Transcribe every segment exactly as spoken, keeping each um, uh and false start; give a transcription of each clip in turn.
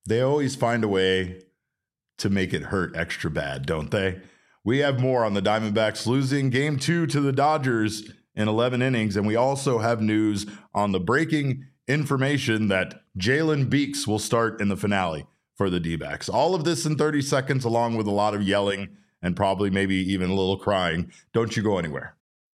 They always find a way to make it hurt extra bad, don't they? We have more on the Diamondbacks losing game two to the Dodgers in eleven innings, and we also have news on the breaking information that Jalen Beeks will start in the finale for the D-backs. All of this in thirty seconds, along with a lot of yelling and probably maybe even a little crying. Don't you go anywhere.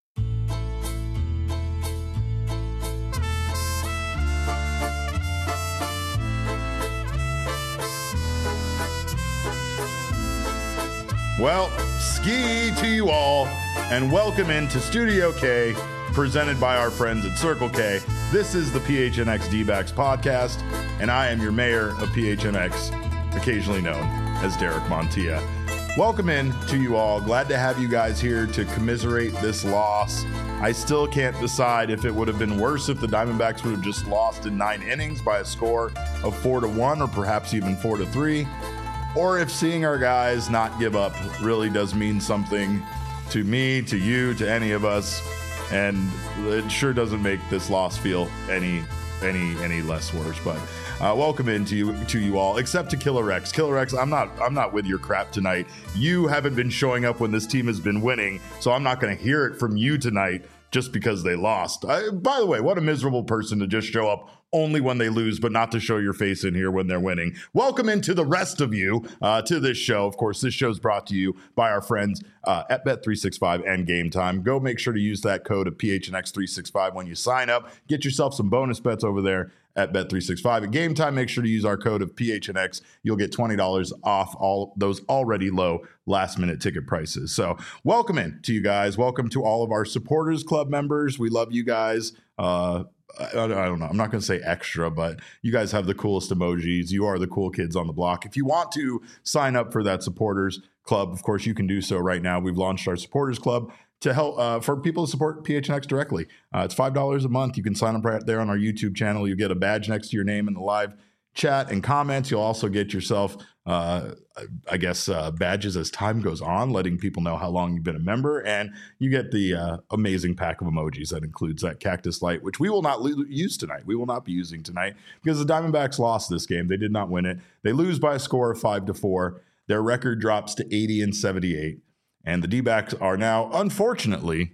Well, ski to you all, and welcome into Studio K, presented by our friends at Circle K. This is the P H N X D-backs podcast, and I am your mayor of P H N X, occasionally known as Derek Montilla. Welcome in to you all. Glad to have you guys here to commiserate this loss. I still can't decide if it would have been worse if the Diamondbacks would have just lost in nine innings by a score of four to one, or perhaps even four to three. Or if seeing our guys not give up really does mean something to me, to you, to any of us, and it sure doesn't make this loss feel any any any less worse. But uh, welcome in to you to you all, except to Killer X. Killer X, I'm not I'm not with your crap tonight. You haven't been showing up when this team has been winning, so I'm not going to hear it from you tonight just because they lost. I, by the way, what a miserable person to just show up only when they lose, but not to show your face in here when they're winning. Welcome into the rest of you uh, to this show. Of course, this show is brought to you by our friends uh, at Bet three sixty-five and Game Time. Go make sure to use that code of P H N X three sixty-five when you sign up. Get yourself some bonus bets over there at Bet three sixty-five. At Game Time, make sure to use our code of P H N X. You'll get twenty dollars off all those already low last-minute ticket prices. So welcome in to you guys. Welcome to all of our Supporters Club members. We love you guys. Uh, I, I don't know. I'm not going to say extra, but you guys have the coolest emojis. You are the cool kids on the block. If you want to sign up for that Supporters Club, of course, you can do so right now. We've launched our Supporters Club to help uh, for people to support P H N X directly. Uh, it's five dollars a month. You can sign up right there on our YouTube channel. You get a badge next to your name in the live chat and comments. You'll also get yourself, uh, I guess, uh, badges as time goes on, letting people know how long you've been a member. And you get the uh, amazing pack of emojis that includes that cactus light, which we will not lo- use tonight. We will not be using tonight because the Diamondbacks lost this game. They did not win it. They lose by a score of five to four. Their record drops to eighty and seventy-eight. And the D-backs are now, unfortunately,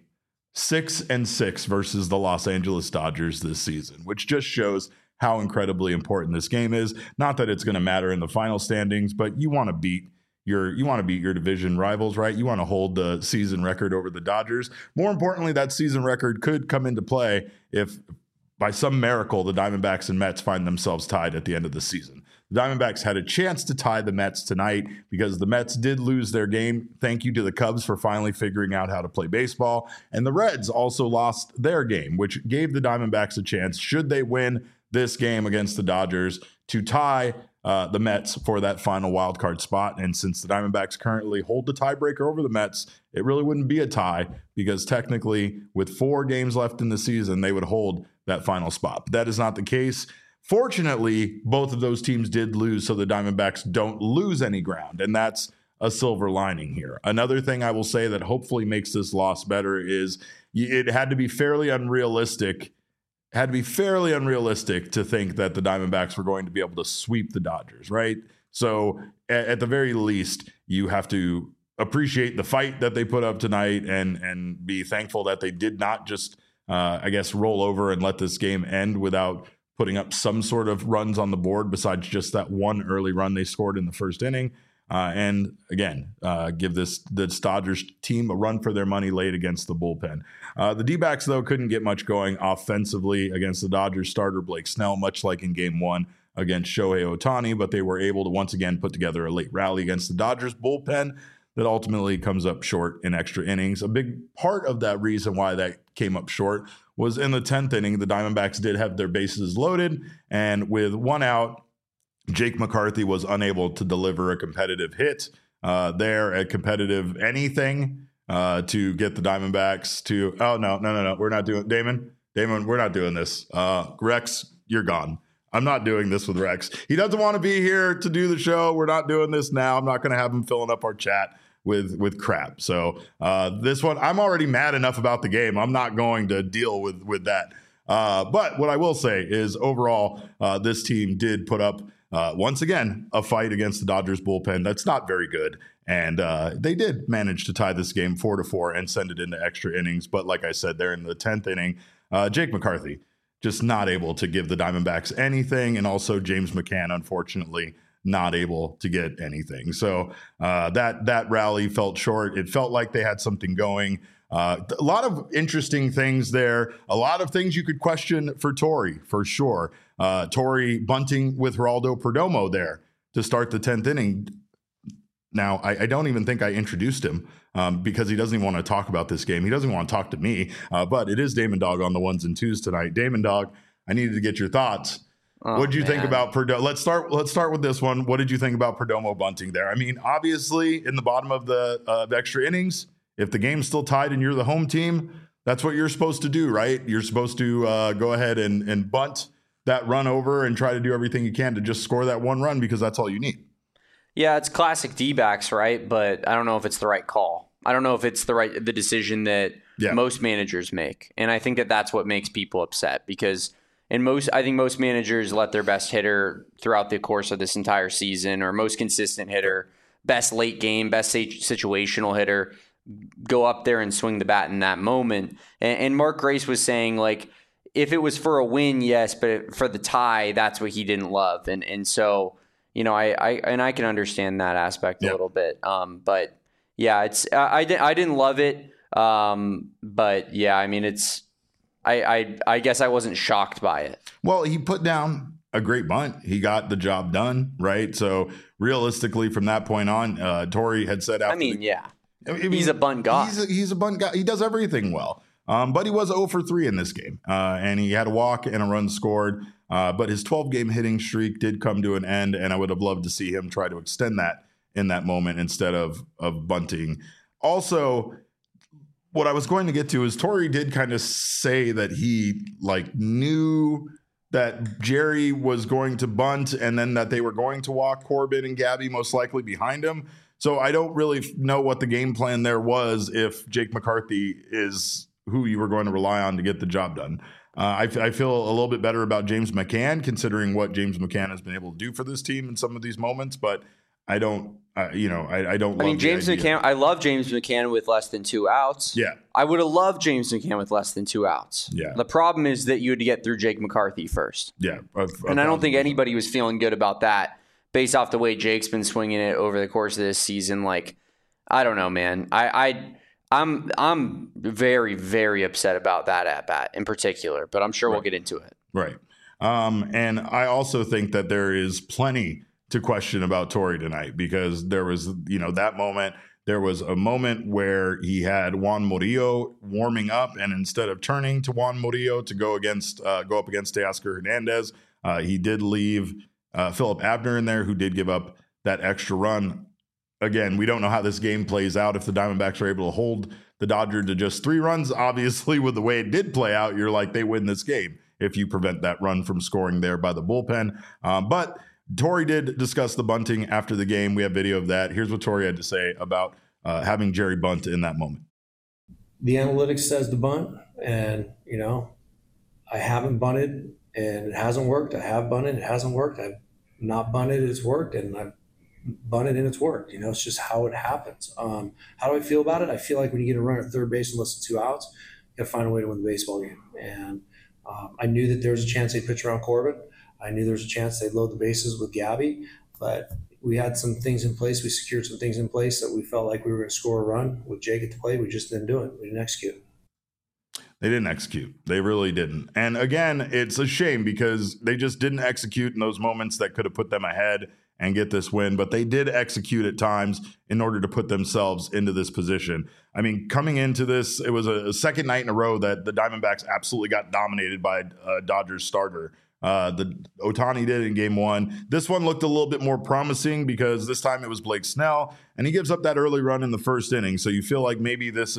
six and six versus the Los Angeles Dodgers this season, which just shows how incredibly important this game is. Not that it's going to matter in the final standings, but you want to beat your you want to beat your division rivals, right? You want to hold the season record over the Dodgers. More importantly, that season record could come into play if, by some miracle, the Diamondbacks and Mets find themselves tied at the end of the season. The Diamondbacks had a chance to tie the Mets tonight because the Mets did lose their game. Thank you to the Cubs for finally figuring out how to play baseball. And the Reds also lost their game, which gave the Diamondbacks a chance, should they win this game against the Dodgers, to tie uh, the Mets for that final wild card spot. And since the Diamondbacks currently hold the tiebreaker over the Mets, it really wouldn't be a tie because technically with four games left in the season, they would hold that final spot. But that is not the case. Fortunately, both of those teams did lose, so the Diamondbacks don't lose any ground, and that's a silver lining here. Another thing I will say that hopefully makes this loss better is it had to be fairly unrealistic had to be fairly unrealistic to think that the Diamondbacks were going to be able to sweep the Dodgers, right? So at, at the very least, you have to appreciate the fight that they put up tonight and and be thankful that they did not just, uh, I guess, roll over and let this game end without putting up some sort of runs on the board besides just that one early run they scored in the first inning. Uh, and again, uh, give this the Dodgers team a run for their money late against the bullpen. Uh, the D-backs, though, couldn't get much going offensively against the Dodgers starter Blake Snell, much like in game one against Shohei Ohtani, but they were able to once again put together a late rally against the Dodgers bullpen that ultimately comes up short in extra innings. A big part of that reason why that came up short was in the tenth inning, the Diamondbacks did have their bases loaded, and with one out, Jake McCarthy was unable to deliver a competitive hit uh, there, a competitive anything uh, to get the Diamondbacks to, oh, no, no, no, no, we're not doing, Damon, Damon, we're not doing this. Uh, Rex, you're gone. I'm not doing this with Rex. He doesn't want to be here to do the show. We're not doing this now. I'm not going to have him filling up our chat with with crap. So uh, this one, I'm already mad enough about the game. I'm not going to deal with, with that. Uh, but what I will say is overall, uh, this team did put up uh, once again, a fight against the Dodgers bullpen that's not very good. And uh, they did manage to tie this game four to four and send it into extra innings. But like I said, they're in the tenth inning. Uh, Jake McCarthy just not able to give the Diamondbacks anything. And also James McCann, unfortunately, not able to get anything. So uh, that that rally felt short. It felt like they had something going. Uh, a lot of interesting things there. A lot of things you could question for Torey, for sure. Uh, Torey bunting with Geraldo Perdomo there to start the tenth inning. Now, I, I don't even think I introduced him um, because he doesn't even want to talk about this game. He doesn't even want to talk to me. Uh, but it is Damon Dog on the ones and twos tonight. Damon Dog, I needed to get your thoughts. Oh, what did you man. think about Perdomo? Let's start. Let's start with this one. What did you think about Perdomo bunting there? I mean, obviously, in the bottom of the uh, extra innings, if the game's still tied and you're the home team, that's what you're supposed to do, right? You're supposed to uh, go ahead and, and bunt that run over and try to do everything you can to just score that one run because that's all you need. Yeah, it's classic D-backs, right? But I don't know if it's the right call. I don't know if it's the right the decision that yeah. most managers make. And I think that that's what makes people upset because in most, I think most managers let their best hitter throughout the course of this entire season or most consistent hitter, best late game, best situational hitter, go up there and swing the bat in that moment. And, and Mark Grace was saying, like, if it was for a win, yes, but for the tie, that's what he didn't love. And and so, you know, I, I and I can understand that aspect yep. a little bit. Um, but yeah, it's I, I, didn't, I didn't love it. Um, but yeah, I mean, it's I, I I guess I wasn't shocked by it. Well, he put down a great bunt. He got the job done, right? So realistically, from that point on, uh, Torey had said after I mean, the, yeah. I mean, he's a bunt guy. He's a, he's a bunt guy. He does everything well. Um, but he was oh for three in this game. Uh, and he had a walk and a run scored. Uh, but his twelve-game hitting streak did come to an end, and I would have loved to see him try to extend that in that moment instead of of bunting. Also, what I was going to get to is Torey did kind of say that he like knew that Jerry was going to bunt and then that they were going to walk Corbin and Gabby most likely behind him. So I don't really know what the game plan there was if Jake McCarthy is who you were going to rely on to get the job done. Uh, I, I feel a little bit better about James McCann, considering what James McCann has been able to do for this team in some of these moments, but I don't, uh, you know, I, I don't love I mean, James McCann, I love James McCann with less than two outs. Yeah. I would have loved James McCann with less than two outs. Yeah. The problem is that you had to get through Jake McCarthy first. Yeah. A, a and I don't think anybody was feeling good about that based off the way Jake's been swinging it over the course of this season. Like, I don't know, man. I, I, I'm I'm very, very upset about that at bat in particular, but I'm sure right. we'll get into it. Right. Um, and I also think that there is plenty to question about Torey tonight because there was, you know, that moment. There was a moment where he had Juan Murillo warming up, and instead of turning to Juan Murillo to go against uh, go up against Teoscar Hernandez, uh, he did leave uh, Philip Abner in there, who did give up that extra run. Again, we don't know how this game plays out. If the Diamondbacks are able to hold the Dodgers to just three runs, obviously with the way it did play out, you're like, they win this game if you prevent that run from scoring there by the bullpen. Um, but Torey did discuss the bunting after the game. We have video of that. Here's what Torey had to say about uh, having Jerry bunt in that moment. The analytics says to bunt, and, you know, I haven't bunted, and it hasn't worked. I have bunted, it hasn't worked. I've not bunted, it's worked, and I've bunted and it's worked. You know, it's just how it happens. Um, how do I feel about it? I feel like when you get a run at third base and less than two outs, you got to find a way to win the baseball game. And um, I knew that there was a chance they'd pitch around Corbin. I knew there was a chance they'd load the bases with Gabby, but we had some things in place. We secured some things in place that we felt like we were going to score a run with Jake at the plate. We just didn't do it. We didn't execute. They didn't execute. They really didn't. And again, it's a shame because they just didn't execute in those moments that could have put them ahead and get this win, but they did execute at times in order to put themselves into this position. I mean, coming into this, it was a, a second night in a row that the Diamondbacks absolutely got dominated by a Dodgers starter. Uh, the Ohtani did in game one. This one looked a little bit more promising because this time it was Blake Snell, and he gives up that early run in the first inning. So you feel like maybe this is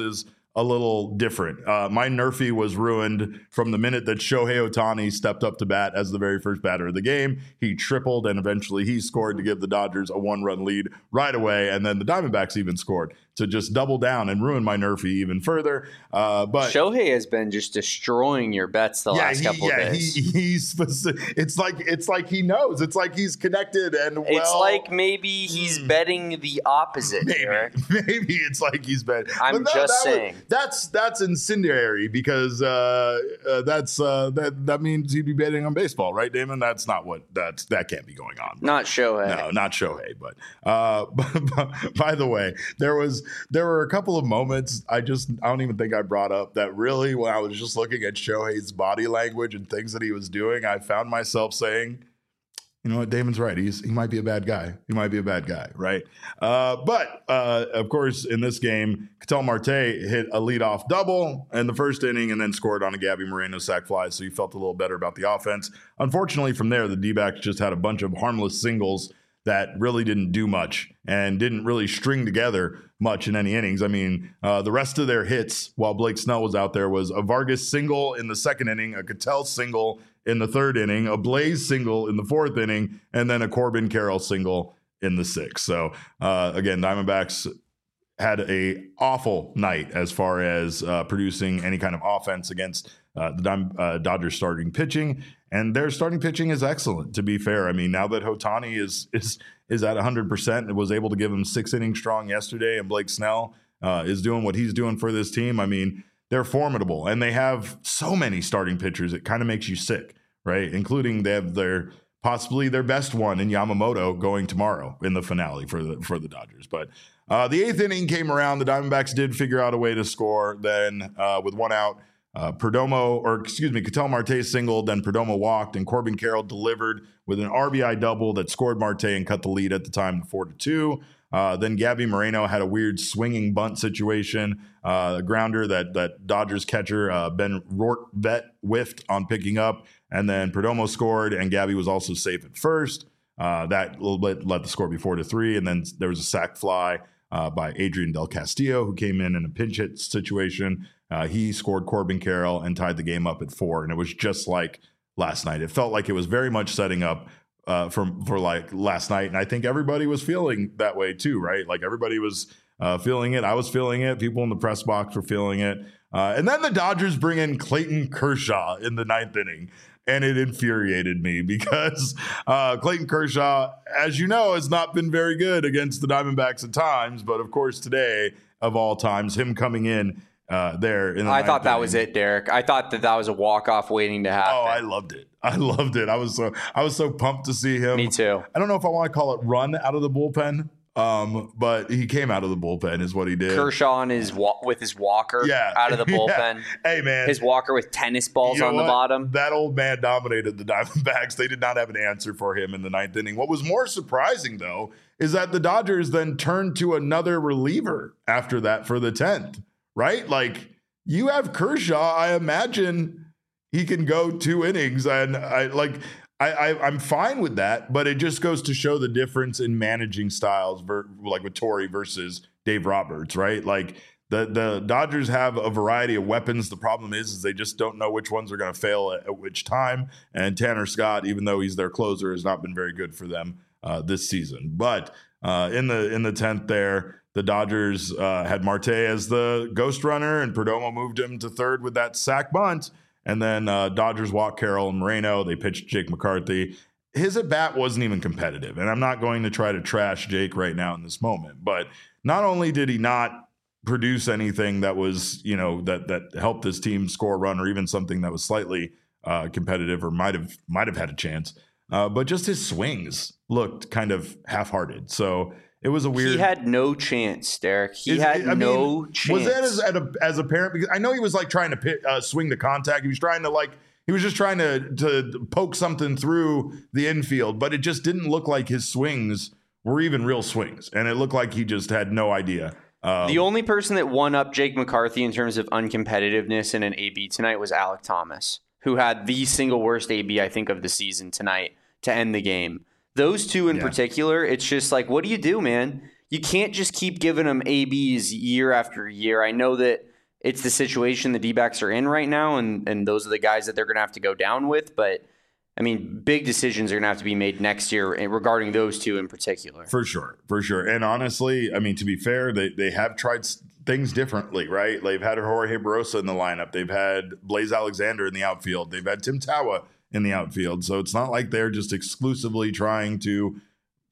a little different. Uh, my Nerfy was ruined from the minute that Shohei Ohtani stepped up to bat as the very first batter of the game. He tripled, and eventually he scored to give the Dodgers a one-run lead right away, and then the Diamondbacks even scored to just double down and ruin my Nerfy even further. Uh, but Shohei has been just destroying your bets the yeah, last he, couple yeah, of days. He, he's it's like it's like he knows. It's like he's connected, and well, it's like maybe he's mm, betting the opposite. Maybe, Eric. maybe it's like he's betting. I'm no, just that saying was, that's that's incendiary because uh, uh, that's uh, that that means he'd be betting on baseball, right, Damon? That's not what that's that can't be going on. Not Shohei. No, not Shohei. But, uh, but by the way, there was there were a couple of moments I just I don't even think I brought up that really when I was just looking at Shohei's body language and things that he was doing, I found myself saying, you know what, Damon's right. He's he might be a bad guy. He might be a bad guy, right? Uh, but uh, of course, in this game, Ketel Marte hit a leadoff double in the first inning and then scored on a Gabby Moreno sac fly, so he felt a little better about the offense. Unfortunately, from there, the D-backs just had a bunch of harmless singles that really didn't do much and didn't really string together much in any innings. I mean, uh, the rest of their hits while Blake Snell was out there was a Vargas single in the second inning, a Ketel single in the third inning, a Blaze single in the fourth inning, and then a Corbin Carroll single in the sixth. So uh, again, Diamondbacks had a awful night as far as uh, producing any kind of offense against uh, the Dime, uh, Dodgers starting pitching, and their starting pitching is excellent. To be fair, I mean, now that Ohtani is is is at one hundred percent and was able to give him six innings strong yesterday, and Blake Snell uh, is doing what he's doing for this team. I mean, they're formidable, and they have so many starting pitchers it kind of makes you sick, right? Including they have their possibly their best one in Yamamoto going tomorrow in the finale for the for the Dodgers. But uh, the eighth inning came around. The Diamondbacks did figure out a way to score. Then uh, with one out, uh, Perdomo, or excuse me, Ketel Marte singled, then Perdomo walked, and Corbin Carroll delivered with an R B I double that scored Marte and cut the lead at the time to four to two. Uh, then Gabby Moreno had a weird swinging bunt situation, uh, a grounder that that Dodgers catcher uh, Ben Rortvedt whiffed on picking up, and then Perdomo scored, and Gabby was also safe at first. Uh, that little bit let the score be four to three, and then there was a sac fly uh, by Adrian Del Castillo, who came in in a pinch hit situation. Uh, he scored Corbin Carroll and tied the game up at four, and it was just like last night. It felt like it was very much setting up Uh, from for like last night, and I think everybody was feeling that way too, right? Like everybody was uh, feeling it. I was feeling it. People in the press box were feeling it. Uh, and then the Dodgers bring in Clayton Kershaw in the ninth inning, and it infuriated me because uh, Clayton Kershaw, as you know, has not been very good against the Diamondbacks at times. But of course, today of all times, him coming in uh, there. In the I thought that inning, was it, Derek. I thought that that was a walk off waiting to happen. Oh, I loved it. I loved it. I was so I was so pumped to see him. Me too. I don't know if I want to call it run out of the bullpen, um, but he came out of the bullpen is what he did. Kershaw and his wa- with his walker yeah. out of the bullpen. Yeah. Hey, man. His walker with tennis balls you know on what? the bottom. That old man dominated the Diamondbacks. They did not have an answer for him in the ninth inning. What was more surprising, though, is that the Dodgers then turned to another reliever after that for the tenth, right? Like, you have Kershaw, I imagine he can go two innings, and I like I, I I'm fine with that, but it just goes to show the difference in managing styles, ver, like with Torey versus Dave Roberts, right? Like the the Dodgers have a variety of weapons. The problem is, is they just don't know which ones are going to fail at, at which time. And Tanner Scott, even though he's their closer, has not been very good for them uh, this season. But uh, in the in the tenth there, the Dodgers uh, had Marte as the ghost runner, and Perdomo moved him to third with that sac bunt. And then uh, Dodgers walked Carroll and Moreno. They pitched Jake McCarthy. His at-bat wasn't even competitive. And I'm not going to try to trash Jake right now in this moment. But not only did he not produce anything that was, you know, that that helped this team score a run or even something that was slightly uh, competitive or might have might have had a chance, uh, but just his swings looked kind of half-hearted. So it was a weird. He had no chance, Derek. He Is, had I no mean, chance. Was that as, as, a, as a parent? Because I know he was like trying to pit, uh, swing the contact. He was trying to like, he was just trying to, to poke something through the infield, but it just didn't look like his swings were even real swings. And it looked like he just had no idea. Um, the only person that won up Jake McCarthy in terms of uncompetitiveness in an A B tonight was Alek Thomas, who had the single worst A B, I think, of the season tonight to end the game. Those two in yeah. particular, it's just like, what do you do, man? You can't just keep giving them A Bs year after year. I know that it's the situation the D-backs are in right now, and, and those are the guys that they're going to have to go down with. But, I mean, big decisions are going to have to be made next year regarding those two in particular. For sure, for sure. And honestly, I mean, to be fair, they, they have tried things differently, right? They've had Jorge Barrosa in the lineup. They've had Blaze Alexander in the outfield. They've had Tim Tawa in the outfield. So it's not like they're just exclusively trying to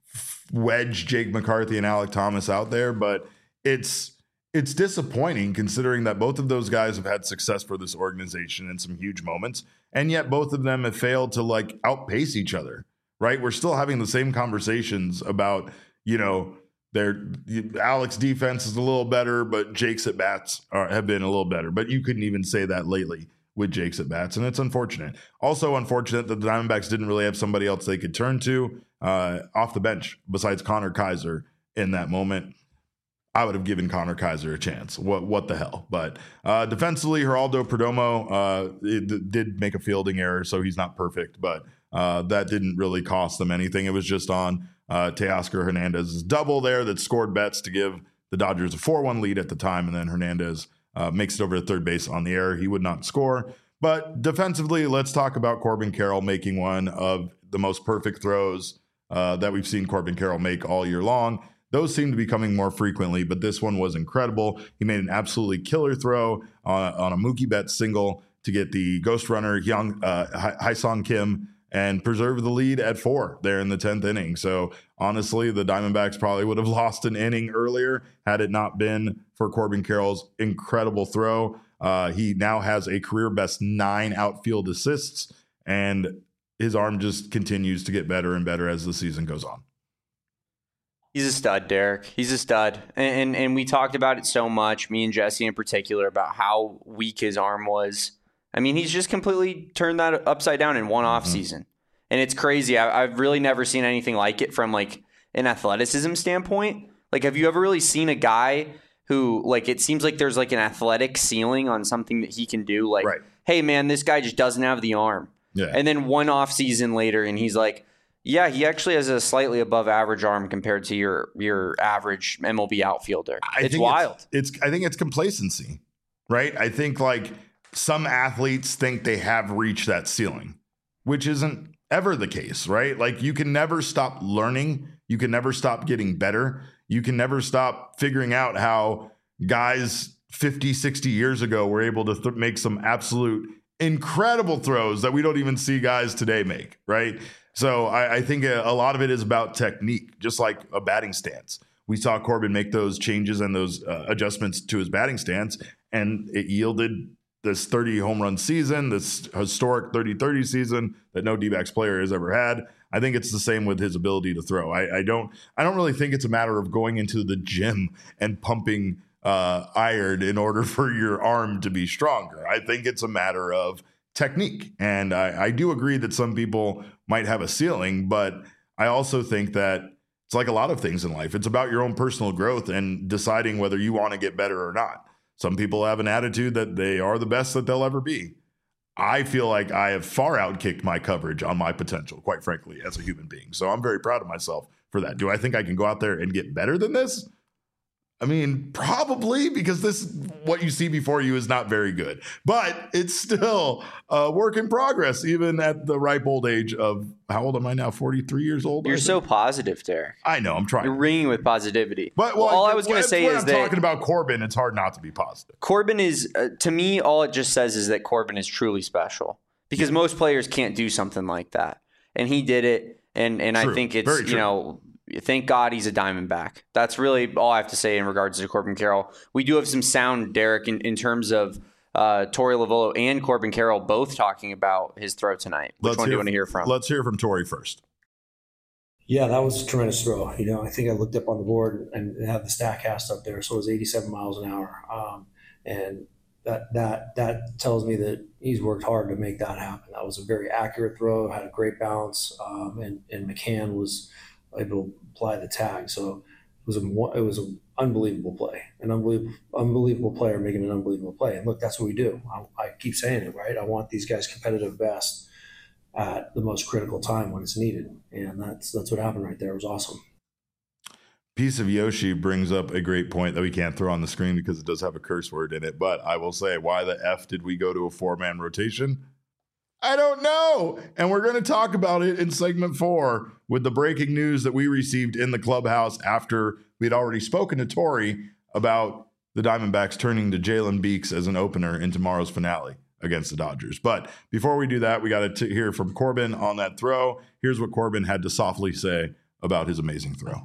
wedge Jake McCarthy and Alek Thomas out there, but it's it's disappointing considering that both of those guys have had success for this organization in some huge moments, and yet both of them have failed to like outpace each other, right? We're still having the same conversations about, you know, their Alek's defense is a little better, but Jake's at bats are, have been a little better, but you couldn't even say that lately with Jake's at bats, and it's unfortunate. Also unfortunate that the Diamondbacks didn't really have somebody else they could turn to uh, off the bench besides Connor Kaiser in that moment. I would have given Connor Kaiser a chance. What what the hell? But uh, defensively, Geraldo Perdomo uh, it, did make a fielding error, so he's not perfect, but uh, that didn't really cost them anything. It was just on uh, Teoscar Hernandez's double there that scored Betts to give the Dodgers a four one lead at the time, and then Hernandez uh, makes it over to third base on the error. He would not score. But defensively, let's talk about Corbin Carroll making one of the most perfect throws uh, that we've seen Corbin Carroll make all year long. Those seem to be coming more frequently, but this one was incredible. He made an absolutely killer throw on, on a Mookie Betts single to get the ghost runner Hyung, uh, Hyesung Kim and preserve the lead at four there in the tenth inning. So honestly, the Diamondbacks probably would have lost an inning earlier had it not been for Corbin Carroll's incredible throw. Uh, he now has a career best nine outfield assists, and his arm just continues to get better and better as the season goes on. He's a stud, Derek. He's a stud. And, and and we talked about it so much, me and Jesse in particular, about how weak his arm was. I mean, he's just completely turned that upside down in one off mm-hmm. season. And it's crazy. I, I've really never seen anything like it from like an athleticism standpoint. Like, have you ever really seen a guy who, like, it seems like there's like an athletic ceiling on something that he can do? Like, right. Hey, man, this guy just doesn't have the arm. Yeah. And then one off season later, and he's like, yeah, he actually has a slightly above average arm compared to your your average M L B outfielder. I it's wild. It's, it's I think it's complacency, right? I think like some athletes think they have reached that ceiling, which isn't ever the case, right? Like you can never stop learning. You can never stop getting better. You can never stop figuring out how guys fifty, sixty years ago were able to th- make some absolute incredible throws that we don't even see guys today make, right? So I, I think a, a lot of it is about technique, just like a batting stance. We saw Corbin make those changes and those uh, adjustments to his batting stance, and it yielded this thirty home run season, this historic thirty thirty season that no D-backs player has ever had. I think it's the same with his ability to throw. I, I don't I don't really think it's a matter of going into the gym and pumping uh, iron in order for your arm to be stronger. I think it's a matter of technique. And I, I do agree that some people might have a ceiling, but I also think that it's like a lot of things in life. It's about your own personal growth and deciding whether you want to get better or not. Some people have an attitude that they are the best that they'll ever be. I feel like I have far outkicked my coverage on my potential, quite frankly, as a human being. So I'm very proud of myself for that. Do I think I can go out there and get better than this? I mean, probably, because this, what you see before you is not very good, but it's still a work in progress, even at the ripe old age of, how old am I now? forty-three years old? You're so positive, Derek. I know, I'm trying. You're ringing with positivity. But well, well, all I was going to say when is I'm that talking about Corbin, it's hard not to be positive. Corbin is, uh, to me, all it just says is that Corbin is truly special, because most players can't do something like that. And he did it. And, and I think it's, you know, thank God he's a Diamondback. That's really all I have to say in regards to Corbin Carroll. We do have some sound, Derek, in, in terms of uh, Torey Lovullo and Corbin Carroll both talking about his throw tonight. Which let's one do you want to hear from? Let's hear from Torey first. Yeah, that was a tremendous throw. You know, I think I looked up on the board and had the StatCast up there, so it was eighty-seven miles an hour. Um, and that that that tells me that he's worked hard to make that happen. That was a very accurate throw, had a great bounce, um, and, and McCann was able to apply the tag. So it was a it was an unbelievable play, an unbelievable unbelievable player making an unbelievable play. And look, that's what we do. I, I keep saying it, right? I want these guys competitive best at the most critical time when it's needed, and that's that's what happened right there. It was awesome. Piece of Yoshi brings up a great point that we can't throw on the screen because it does have a curse word in it. But I will say, why the F did we go to a four-man rotation? I don't know. And we're going to talk about it in segment four with the breaking news that we received in the clubhouse after we'd already spoken to Tori about the Diamondbacks turning to Jalen Beeks as an opener in tomorrow's finale against the Dodgers. But before we do that, we got to hear from Corbin on that throw. Here's what Corbin had to softly say about his amazing throw.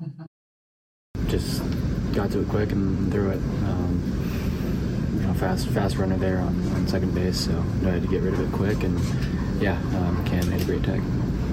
Just got to it quick and threw it. Um, you know, fast fast runner there on, on second base, so I had to get rid of it quick. And yeah, um, Cam made a great tag.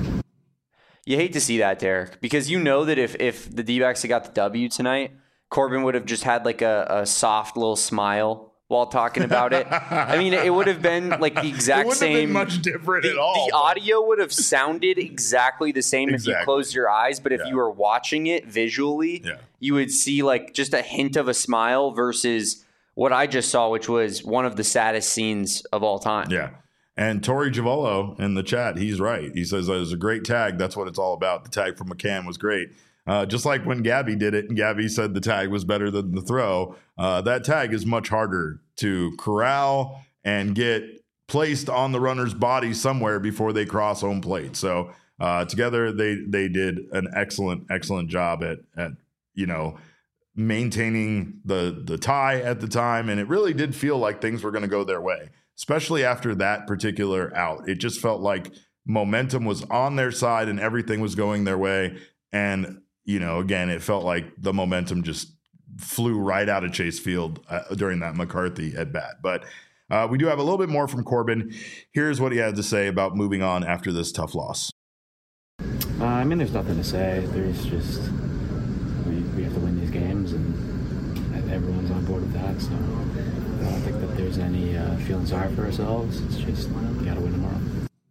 You hate to see that, Derek, because you know that if, if the D-backs had got the W tonight, Corbin would have just had like a, a soft little smile while talking about it. I mean, it would have been like the exact it wouldn't same. Have been much different the, at all. The audio would have sounded exactly the same exactly. if you closed your eyes, but if yeah. you were watching it visually, yeah. you would see like just a hint of a smile versus what I just saw, which was one of the saddest scenes of all time. Yeah. And Tori Giavolo in the chat, he's right. He says it was a great tag. That's what it's all about. The tag from McCann was great. Uh, just like when Gabby did it and Gabby said the tag was better than the throw, uh, that tag is much harder to corral and get placed on the runner's body somewhere before they cross home plate. So uh, together they they did an excellent, excellent job at, at you know, maintaining the, the tie at the time. And it really did feel like things were going to go their way, especially after that particular out. It just felt like momentum was on their side and everything was going their way. And you know, again, it felt like the momentum just flew right out of Chase Field uh, during that McCarthy at bat. But uh, we do have a little bit more from Corbin. Here's what he had to say about moving on after this tough loss. Uh, I mean, there's nothing to say. There's just we, we have to win these games, and everyone's on board with that. So I don't think that there's any uh, feeling sorry for ourselves. It's just we got to win tomorrow.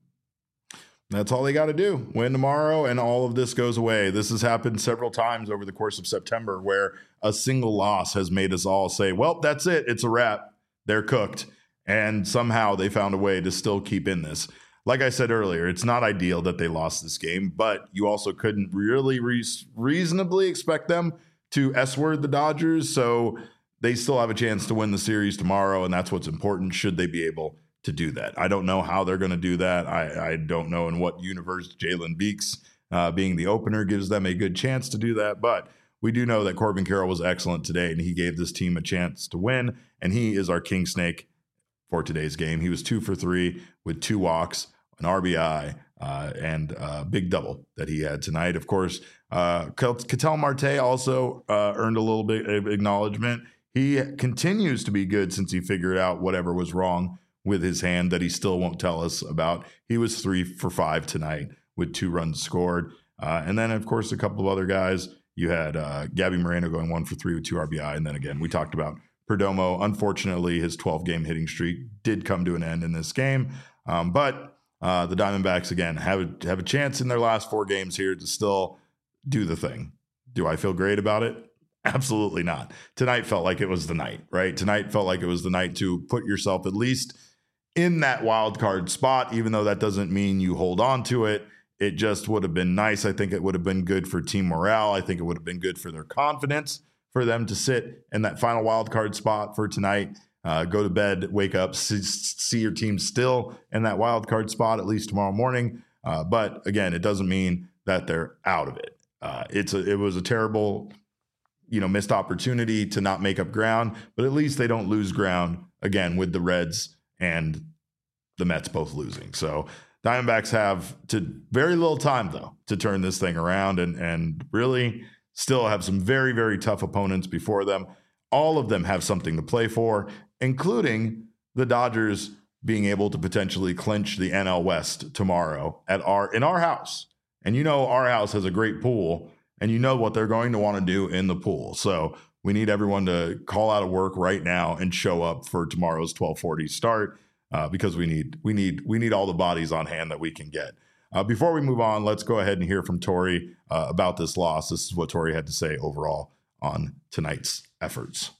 That's all they got to do. Win tomorrow, and all of this goes away. This has happened several times over the course of September where a single loss has made us all say, well, that's it. It's a wrap. They're cooked. And somehow they found a way to still keep in this. Like I said earlier, it's not ideal that they lost this game, but you also couldn't really re- reasonably expect them to S-word the Dodgers. So they still have a chance to win the series tomorrow, and that's what's important should they be able to do that. I don't know how they're going to do that. I, I don't know in what universe Jalen Beeks uh, being the opener gives them a good chance to do that. But we do know that Corbin Carroll was excellent today, and he gave this team a chance to win. And he is our king snake for today's game. He was two for three with two walks, an R B I, uh, and a big double that he had tonight. Of course, uh, Ketel Marte also uh, earned a little bit of acknowledgement. He continues to be good since he figured out whatever was wrong with his hand that he still won't tell us about. He was three for five tonight with two runs scored. Uh, and then, of course, a couple of other guys. You had uh, Gabby Moreno going one for three with two R B I. And then again, we talked about Perdomo. Unfortunately, his twelve-game hitting streak did come to an end in this game. Um, but uh, the Diamondbacks, again, have a, have a chance in their last four games here to still do the thing. Do I feel great about it? Absolutely not. Tonight felt like it was the night, right? Tonight felt like it was the night to put yourself at least in that wild card spot, even though that doesn't mean you hold on to it. It just would have been nice. I think it would have been good for team morale. I think it would have been good for their confidence for them to sit in that final wild card spot for tonight. Uh, go to bed, wake up, see, see your team still in that wild card spot at least tomorrow morning. Uh, but again, it doesn't mean that they're out of it. Uh, it's a, it was a terrible, you know, missed opportunity to not make up ground, but at least they don't lose ground again with the Reds and the Mets both losing. So Diamondbacks have to very little time, though, to turn this thing around and, and really still have some very, very tough opponents before them. All of them have something to play for, including the Dodgers being able to potentially clinch the N L West tomorrow at our in our house. And you know our house has a great pool, and you know what they're going to want to do in the pool. So we need everyone to call out of work right now and show up for tomorrow's twelve forty start. Uh, because we need we need we need all the bodies on hand that we can get. Uh, before we move on, let's go ahead and hear from Tori uh, about this loss. This is what Tori had to say overall on tonight's efforts.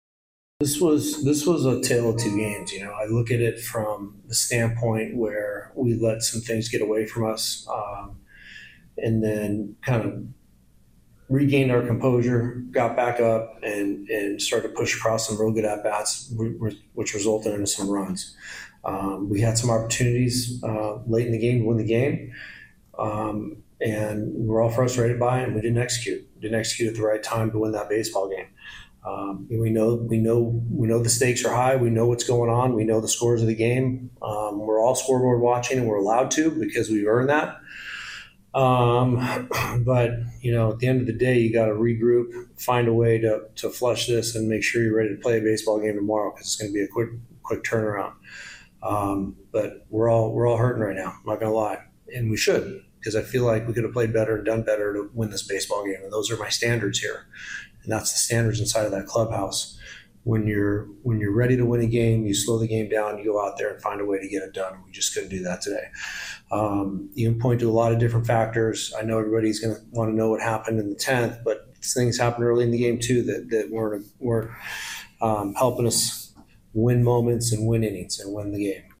This was this was a tale of two games. You know, I look at it from the standpoint where we let some things get away from us, um, and then kind of regained our composure, got back up, and and started to push across some real good at bats, which resulted in some runs. Um, we had some opportunities uh, late in the game to win the game, um, and we were all frustrated by it, and we didn't execute. We didn't execute at the right time to win that baseball game. Um, we know we know we know the stakes are high. We know what's going on. We know the scores of the game. Um, we're all scoreboard watching, and we're allowed to because we've earned that. Um, but you know, at the end of the day, you got to regroup, find a way to to flush this, and make sure you're ready to play a baseball game tomorrow because it's going to be a quick quick turnaround. Um, but we're all we're all hurting right now. I'm not going to lie, and we should, because I feel like we could have played better and done better to win this baseball game, and those are my standards here. And that's the standards inside of that clubhouse. When you're when you're ready to win a game, you slow the game down, you go out there and find a way to get it done. We just couldn't do that today. Um, you can point to a lot of different factors. I know everybody's going to want to know what happened in the tenth, but things happened early in the game too that, that weren't, weren't um, helping us win moments and win innings and win the game.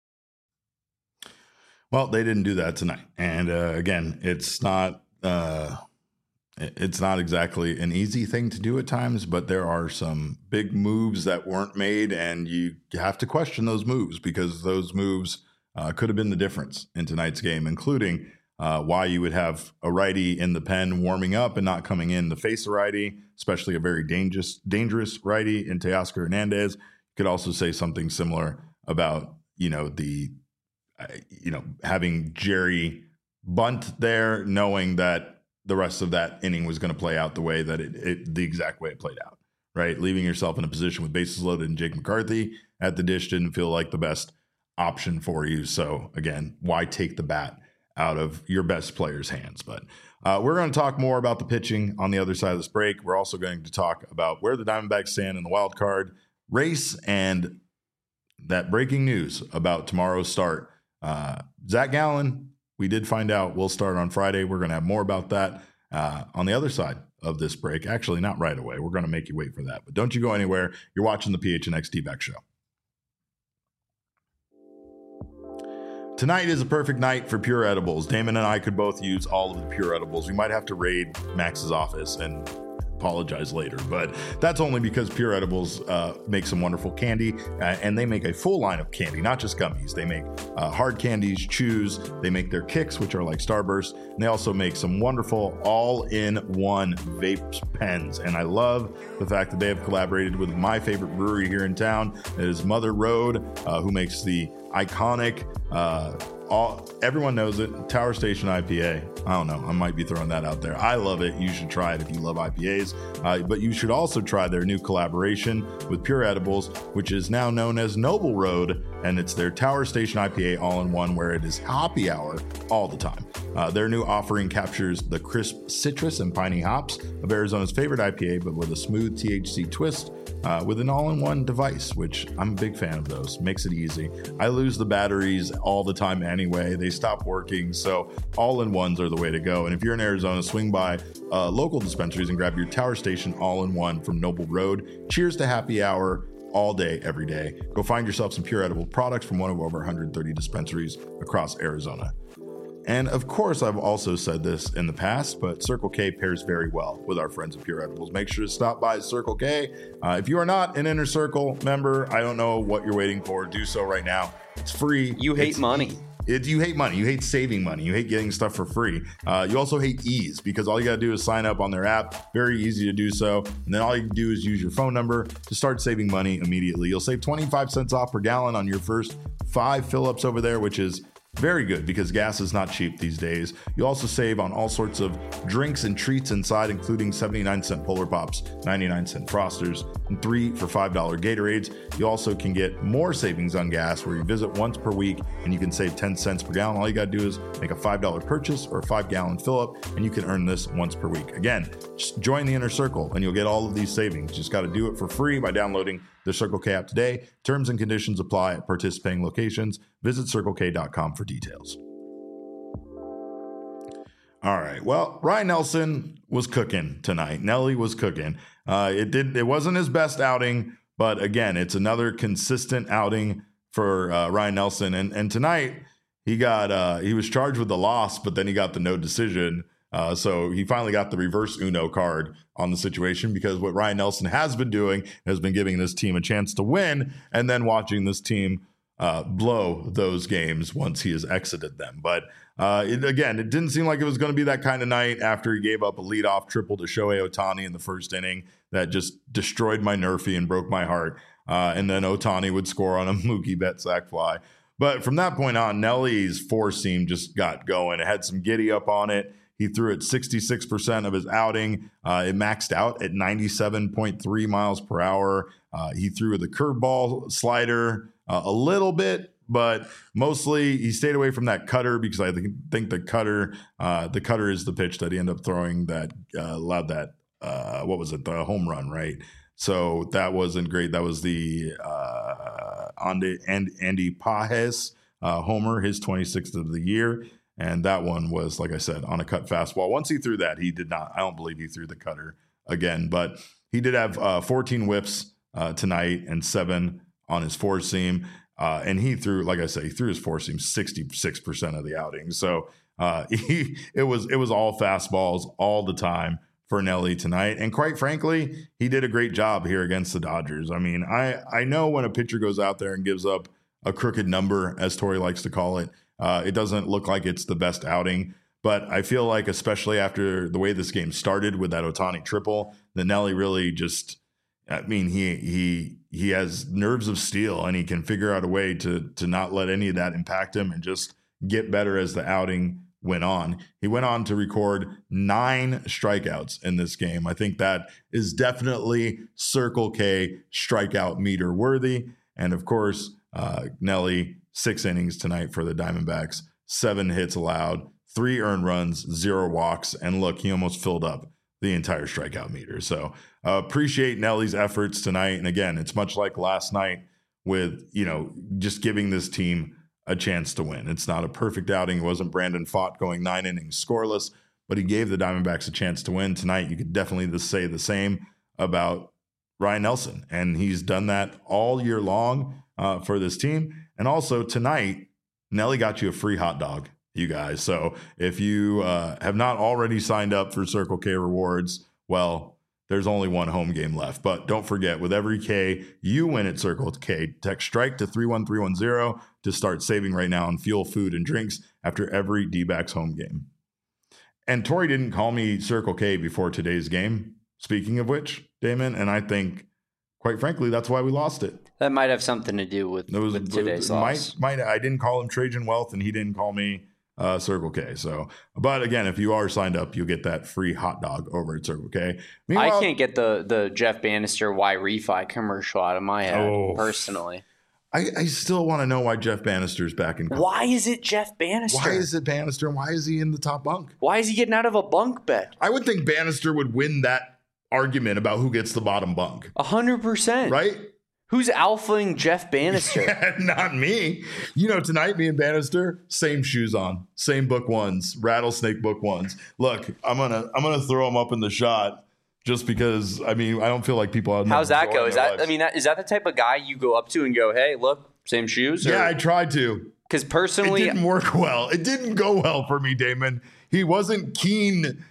Well, they didn't do that tonight. And uh, again, it's not uh... – It's not exactly an easy thing to do at times, but there are some big moves that weren't made, and you have to question those moves because those moves uh, could have been the difference in tonight's game, including uh, why you would have a righty in the pen warming up and not coming in to face a righty, especially a very dangerous dangerous righty in Teoscar Hernandez. You could also say something similar about, you know, the, uh, you know, having Jerry bunt there, knowing that the rest of that inning was going to play out the way that it, it, the exact way it played out, right? Leaving yourself in a position with bases loaded and Jake McCarthy at the dish didn't feel like the best option for you. So again, why take the bat out of your best player's hands? But uh, we're going to talk more about the pitching on the other side of this break. We're also going to talk about where the Diamondbacks stand in the wild card race and that breaking news about tomorrow's start. Uh, Zach Gallen, we did find out we'll start on Friday. We're going to have more about that uh, on the other side of this break. Actually, not right away. We're going to make you wait for that. But don't you go anywhere. You're watching the P H N X D-Back Show. Tonight is a perfect night for Pure Edibles. Damon and I could both use all of the Pure Edibles. We might have to raid Max's office and apologize later, but that's only because Pure Edibles uh, make some wonderful candy, uh, and they make a full line of candy, not just gummies. They make uh, hard candies, chews, they make their kicks, which are like Starburst, and they also make some wonderful all-in-one vape pens, and I love the fact that they have collaborated with my favorite brewery here in town. It is Mother Road, uh, who makes the iconic uh, All, everyone knows it. Tower Station I P A. I don't know. I might be throwing that out there. I love it. You should try it if you love I P As. Uh, but you should also try their new collaboration with Pure Edibles, which is now known as Noble Road. And it's their Tower Station I P A all-in-one, where it is happy hour all the time. Uh, their new offering captures the crisp citrus and piney hops of Arizona's favorite I P A, but with a smooth T H C twist. Uh, with an all-in-one device, which I'm a big fan of those. Makes it easy. I lose the batteries all the time anyway. They stop working, so all-in-ones are the way to go. And if you're in Arizona, swing by uh, local dispensaries and grab your Tower Station all-in-one from Noble Road. Cheers to happy hour all day, every day. Go find yourself some Pure Edible products from one of over one hundred thirty dispensaries across Arizona. And of course, I've also said this in the past, but Circle K pairs very well with our friends at Pure Edibles. Make sure to stop by Circle K. Uh, if you are not an Inner Circle member, I don't know what you're waiting for. Do so right now. It's free. You hate it's, money. It, you hate money. You hate saving money. You hate getting stuff for free. Uh, you also hate ease, because all you got to do is sign up on their app. Very easy to do so. And then all you can do is use your phone number to start saving money immediately. You'll save twenty-five cents off per gallon on your first five fill-ups over there, which is very good because gas is not cheap these days. You also save on all sorts of drinks and treats inside, including seventy-nine cent Polar Pops, ninety-nine cent Frosters, and three for five dollar Gatorades. You also can get more savings on gas where you visit once per week and you can save ten cents per gallon. All you got to do is make a five dollar purchase or a five gallon fill up, and you can earn this once per week. Again, just join the Inner Circle and you'll get all of these savings. Just got to do it for free by downloading the Circle K app today. Terms and conditions apply at participating locations. Visit circle k dot com for details. All right. Well, Ryan Nelson was cooking tonight. Nelly was cooking. Uh, it did. It wasn't his best outing, but again, it's another consistent outing for uh, Ryan Nelson. And and tonight he got uh, he was charged with the loss, but then he got the no decision. Uh, so he finally got the reverse Uno card on the situation, because what Ryan Nelson has been doing has been giving this team a chance to win and then watching this team uh, blow those games once he has exited them. But uh, it, again, it didn't seem like it was going to be that kind of night after he gave up a leadoff triple to Shohei Ohtani in the first inning that just destroyed my Nerfy and broke my heart. Uh, and then Ohtani would score on a Mookie Betts sac fly. But from that point on, Nelly's four seam just got going. It had some giddy up on it. He threw it sixty-six percent of his outing. Uh, it maxed out at ninety-seven point three miles per hour. Uh, he threw the curveball slider uh, a little bit, but mostly he stayed away from that cutter, because I think, think the cutter, uh, the cutter is the pitch that he ended up throwing that uh, allowed that, uh, what was it, the home run, right? So that wasn't great. That was the uh, Andy, Andy Pages uh, homer, his twenty-sixth of the year. And that one was, like I said, on a cut fastball. Once he threw that, he did not, I don't believe he threw the cutter again. But he did have uh, fourteen whips uh, tonight and seven on his four seam. Uh, and he threw, like I said, he threw his four seam sixty-six percent of the outing. So uh, he, it was it was all fastballs all the time for Nelly tonight. And quite frankly, he did a great job here against the Dodgers. I mean, I, I know when a pitcher goes out there and gives up a crooked number, as Tori likes to call it, uh, it doesn't look like it's the best outing. But I feel like, especially after the way this game started with that Ohtani triple, that Nelly really just, I mean, he he he has nerves of steel, and he can figure out a way to to not let any of that impact him and just get better as the outing went on. He went on to record nine strikeouts in this game. I think that is definitely Circle K strikeout meter worthy. And of course, uh, Nelly, six innings tonight for the Diamondbacks, seven hits allowed, three earned runs, zero walks. And look, he almost filled up the entire strikeout meter. So uh, appreciate Nelly's efforts tonight. And again, it's much like last night with, you know, just giving this team a chance to win. It's not a perfect outing. It wasn't Brandon Pfaadt going nine innings scoreless, but he gave the Diamondbacks a chance to win tonight. You could definitely say the same about Ryan Nelson, and he's done that all year long uh, for this team. And also tonight, Nelly got you a free hot dog, you guys. So if you uh, have not already signed up for Circle K Rewards, well, there's only one home game left. But don't forget, with every K you win at Circle K, text STRIKE to three one three one zero to start saving right now on fuel, food, and drinks after every D-backs home game. And Tori didn't call me Circle K before today's game, speaking of which, Damon, and I think, quite frankly, that's why we lost it. That might have something to do with, was, with today's it, loss. Might, might, I didn't call him Trajan Wealth, and he didn't call me Uh, Circle K. So, but again, if you are signed up, you'll get that free hot dog over at Circle K. Meanwhile, I can't get the the Jeff Bannister why refi commercial out of my head oh, personally. I, I still want to know why Jeff Bannister's back in. Why is it Jeff Bannister? Why is it Bannister? And why is he in the top bunk? Why is he getting out of a bunk bed? I would think Bannister would win that argument about who gets the bottom bunk. A hundred percent, right? Who's alphaing Jeff Bannister? Not me. You know, tonight, me and Bannister, same shoes on, same book ones, rattlesnake book ones. Look, I'm gonna I'm gonna throw them up in the shot just because. I mean, I don't feel like people. How's that go? Is that lives. I mean, that, is that the type of guy you go up to and go, "Hey, look, same shoes"? Or? Yeah, I tried to. Because personally, it didn't work well. It didn't go well for me, Damon. He wasn't keen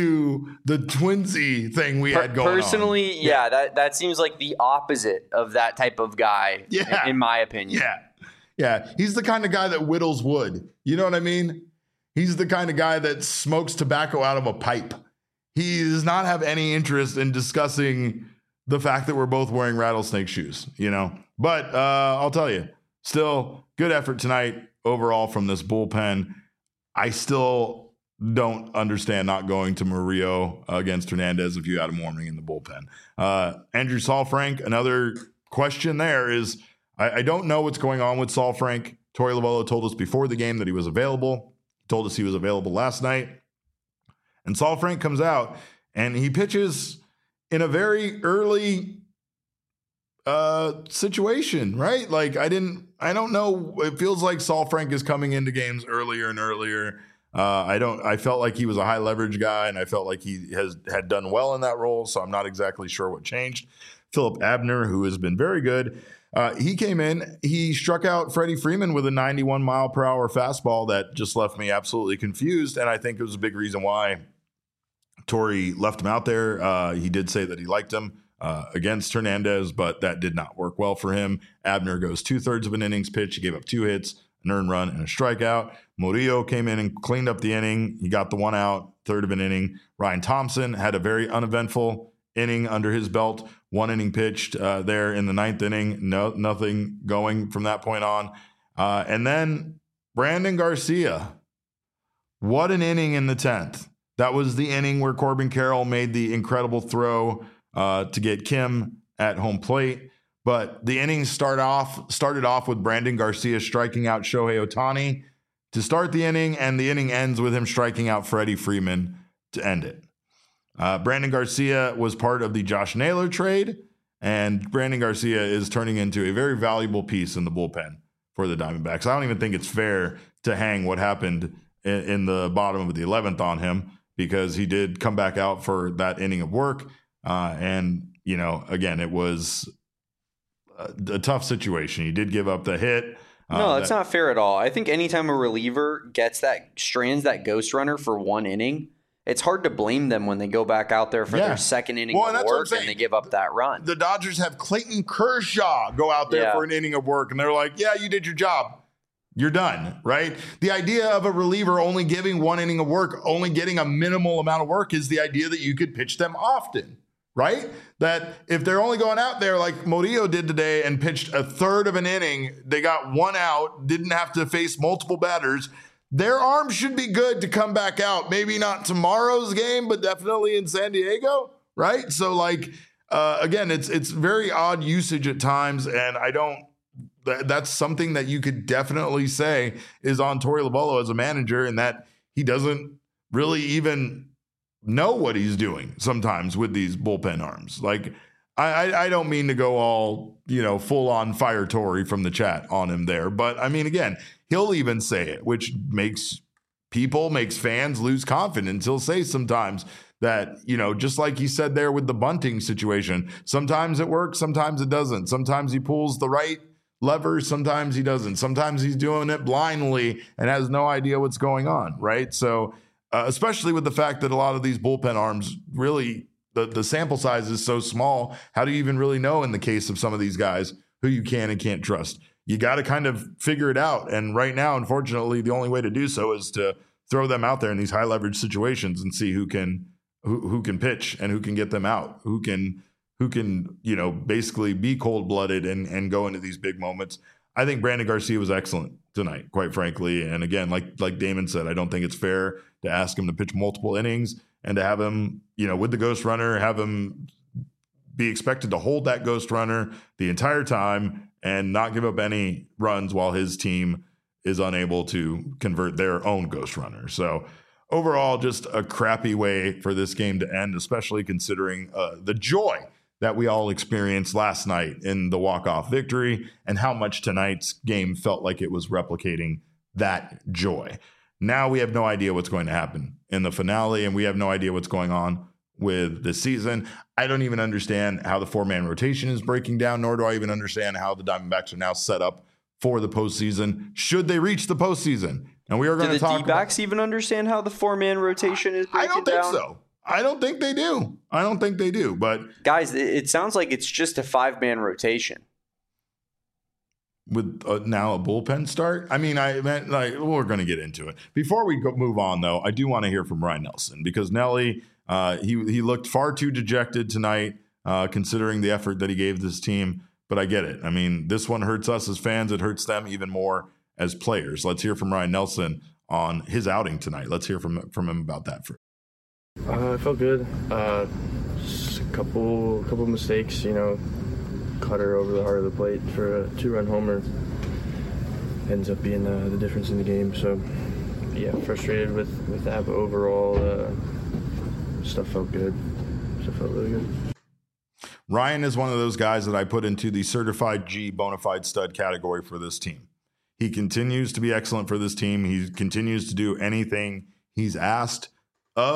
to the twinsy thing we per- had going personally, on. Personally, yeah, yeah, that, that seems like the opposite of that type of guy, yeah. in, in my opinion. Yeah. Yeah. He's the kind of guy that whittles wood. You know what I mean? He's the kind of guy that smokes tobacco out of a pipe. He does not have any interest in discussing the fact that we're both wearing rattlesnake shoes, you know? But uh, I'll tell you, still good effort tonight overall from this bullpen. I still don't understand not going to Murillo against Hernandez if you had him warming in the bullpen. Uh, Andrew Saalfrank, another question there is, I, I don't know what's going on with Saalfrank. Torey Lovullo told us before the game that he was available. He told us he was available last night. And Saalfrank comes out and he pitches in a very early uh, situation, right? Like I didn't, I don't know. It feels like Saalfrank is coming into games earlier and earlier. Uh, I don't. I felt like he was a high leverage guy, and I felt like he has had done well in that role. So I'm not exactly sure what changed. Philip Abner, who has been very good. Uh, he came in, he struck out Freddie Freeman with a ninety-one mile per hour fastball that just left me absolutely confused. And I think it was a big reason why Torey left him out there. Uh, he did say that he liked him uh, against Hernandez, but that did not work well for him. Abner goes two thirds of an innings pitch. He gave up two hits, an earned run, and a strikeout. Murillo came in and cleaned up the inning. He got the one out, third of an inning. Ryan Thompson had a very uneventful inning under his belt. One inning pitched uh, there in the ninth inning. No, nothing going from that point on. Uh, and then Brandon Garcia. What an inning in the tenth. That was the inning where Corbin Carroll made the incredible throw uh, to get Kim at home plate. But the inning start off started off with Brandon Garcia striking out Shohei Ohtani to start the inning, and the inning ends with him striking out Freddie Freeman to end it. Uh, Brandon Garcia was part of the Josh Naylor trade, and Brandon Garcia is turning into a very valuable piece in the bullpen for the Diamondbacks. I don't even think it's fair to hang what happened in, in the bottom of the eleventh on him, because he did come back out for that inning of work. Uh, and, you know, again, it was a, a tough situation. He did give up the hit. Uh, no, that's that, not fair at all. I think anytime a reliever gets that, strands that ghost runner for one inning, it's hard to blame them when they go back out there for yeah. their second inning well, of work and they give up that run. The Dodgers have Clayton Kershaw go out there yeah. for an inning of work, and they're like, yeah, you did your job. You're done, right? The idea of a reliever only giving one inning of work, only getting a minimal amount of work, is the idea that you could pitch them often, right? That if they're only going out there like Murillo did today and pitched a third of an inning, they got one out, didn't have to face multiple batters, their arm should be good to come back out. Maybe not tomorrow's game, but definitely in San Diego, right? So, like, uh, again, it's it's very odd usage at times, and I don't th- that's something that you could definitely say is on Torey Lovullo as a manager, and that he doesn't really even know what he's doing sometimes with these bullpen arms. Like, I, I, I don't mean to go all, you know, full on fire Torey from the chat on him there, but I mean, again, he'll even say it, which makes people, makes fans lose confidence. He'll say sometimes that, you know, just like he said there with the bunting situation, sometimes it works, sometimes it doesn't. Sometimes he pulls the right lever, sometimes he doesn't. Sometimes he's doing it blindly and has no idea what's going on, right? So, uh, especially with the fact that a lot of these bullpen arms really, the, the sample size is so small, how do you even really know in the case of some of these guys who you can and can't trust? You got to kind of figure it out. And right now, unfortunately, the only way to do so is to throw them out there in these high leverage situations and see who can who, who can pitch and who can get them out, who can who can, you know, basically be cold blooded and, and go into these big moments. I think Brandon Garcia was excellent tonight, quite frankly. And again, like like Damon said, I don't think it's fair to ask him to pitch multiple innings and to have him, you know, with the ghost runner, have him be expected to hold that ghost runner the entire time and not give up any runs while his team is unable to convert their own ghost runner. So overall, just a crappy way for this game to end, especially considering uh, the joy that we all experienced last night in the walk-off victory and how much tonight's game felt like it was replicating that joy. Now we have no idea what's going to happen in the finale, and we have no idea what's going on with this season. I don't even understand how the four-man rotation is breaking down, nor do I even understand how the Diamondbacks are now set up for the postseason, should they reach the postseason. And we are going to talk about... Do the D-backs even understand how the four-man rotation is breaking down? I don't think so. I don't think they do. I don't think they do, but... Guys, it sounds like it's just a five-man rotation. With uh, now a bullpen start? I mean, I meant like we're going to get into it. Before we go, move on, though, I do want to hear from Ryan Nelson, because Nelly, uh, he he looked far too dejected tonight, uh, considering the effort that he gave this team. But I get it. I mean, this one hurts us as fans. It hurts them even more as players. Let's hear from Ryan Nelson on his outing tonight. Let's hear from from him about that first. Uh, I felt good. Uh, just a couple couple mistakes, you know. Cutter over the heart of the plate for a two-run homer ends up being uh, the difference in the game. So, yeah, frustrated with, with that, but overall, uh, stuff felt good. Stuff felt really good. Ryan is one of those guys that I put into the certified G bona fide stud category for this team. He continues to be excellent for this team. He continues to do anything he's asked of.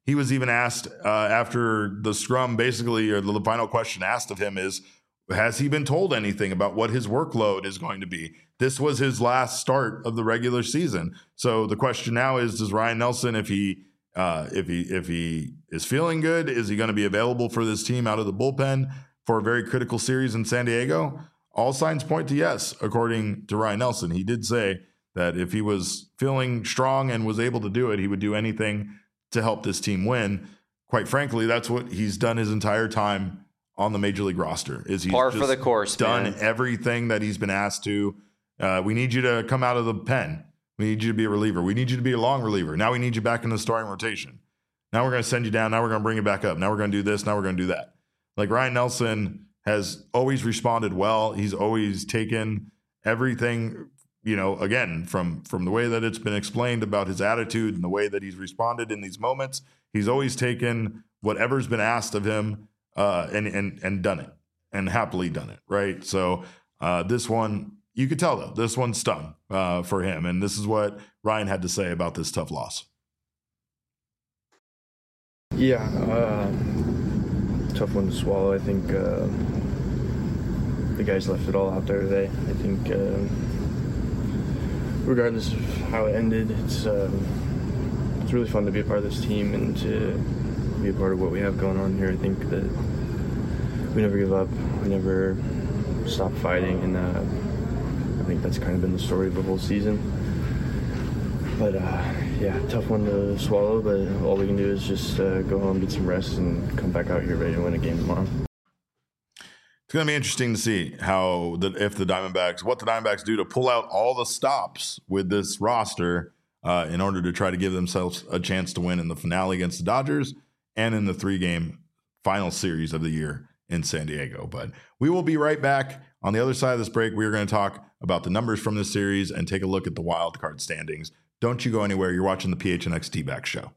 he was even asked uh, after the scrum, basically, or the final question asked of him is, has he been told anything about what his workload is going to be? This was his last start of the regular season. So the question now is, does Ryan Nelson, if he uh, if he if he is feeling good, is he going to be available for this team out of the bullpen for a very critical series in San Diego? All signs point to yes, according to Ryan Nelson. He did say that if he was feeling strong and was able to do it, he would do anything to help this team win. Quite frankly, that's what he's done his entire time on the Major League roster. Is he's par just for the course, done man. everything that he's been asked to. Uh, we need you to come out of the pen. We need you to be a reliever. We need you to be a long reliever. Now we need you back in the starting rotation. Now we're going to send you down. Now we're going to bring you back up. Now we're going to do this. Now we're going to do that. Like, Ryan Nelson has always responded well. He's always taken everything, you know, again, from, from the way that it's been explained about his attitude and the way that he's responded in these moments. He's always taken whatever's been asked of him uh, and, and, and done it, and happily done it, right? So uh, this one, you could tell, though, this one stung uh, for him. And this is what Ryan had to say about this tough loss. Yeah, uh, tough one to swallow. I think uh, the guys left it all out there today. I think uh, regardless of how it ended, it's uh, it's really fun to be a part of this team and to be a part of what we have going on here. I think that we never give up. We never stop fighting, and uh, I think that's kind of been the story of the whole season. But uh, yeah, tough one to swallow, but all we can do is just uh, go home, get some rest, and come back out here ready to win a game tomorrow. It's going to be interesting to see how the, if the Diamondbacks, what the Diamondbacks do to pull out all the stops with this roster uh, in order to try to give themselves a chance to win in the finale against the Dodgers and in the three-game final series of the year in San Diego. But we will be right back. On the other side of this break, we are going to talk about the numbers from this series and take a look at the wild card standings. Don't you go anywhere. You're watching the P H N X D-Back Show.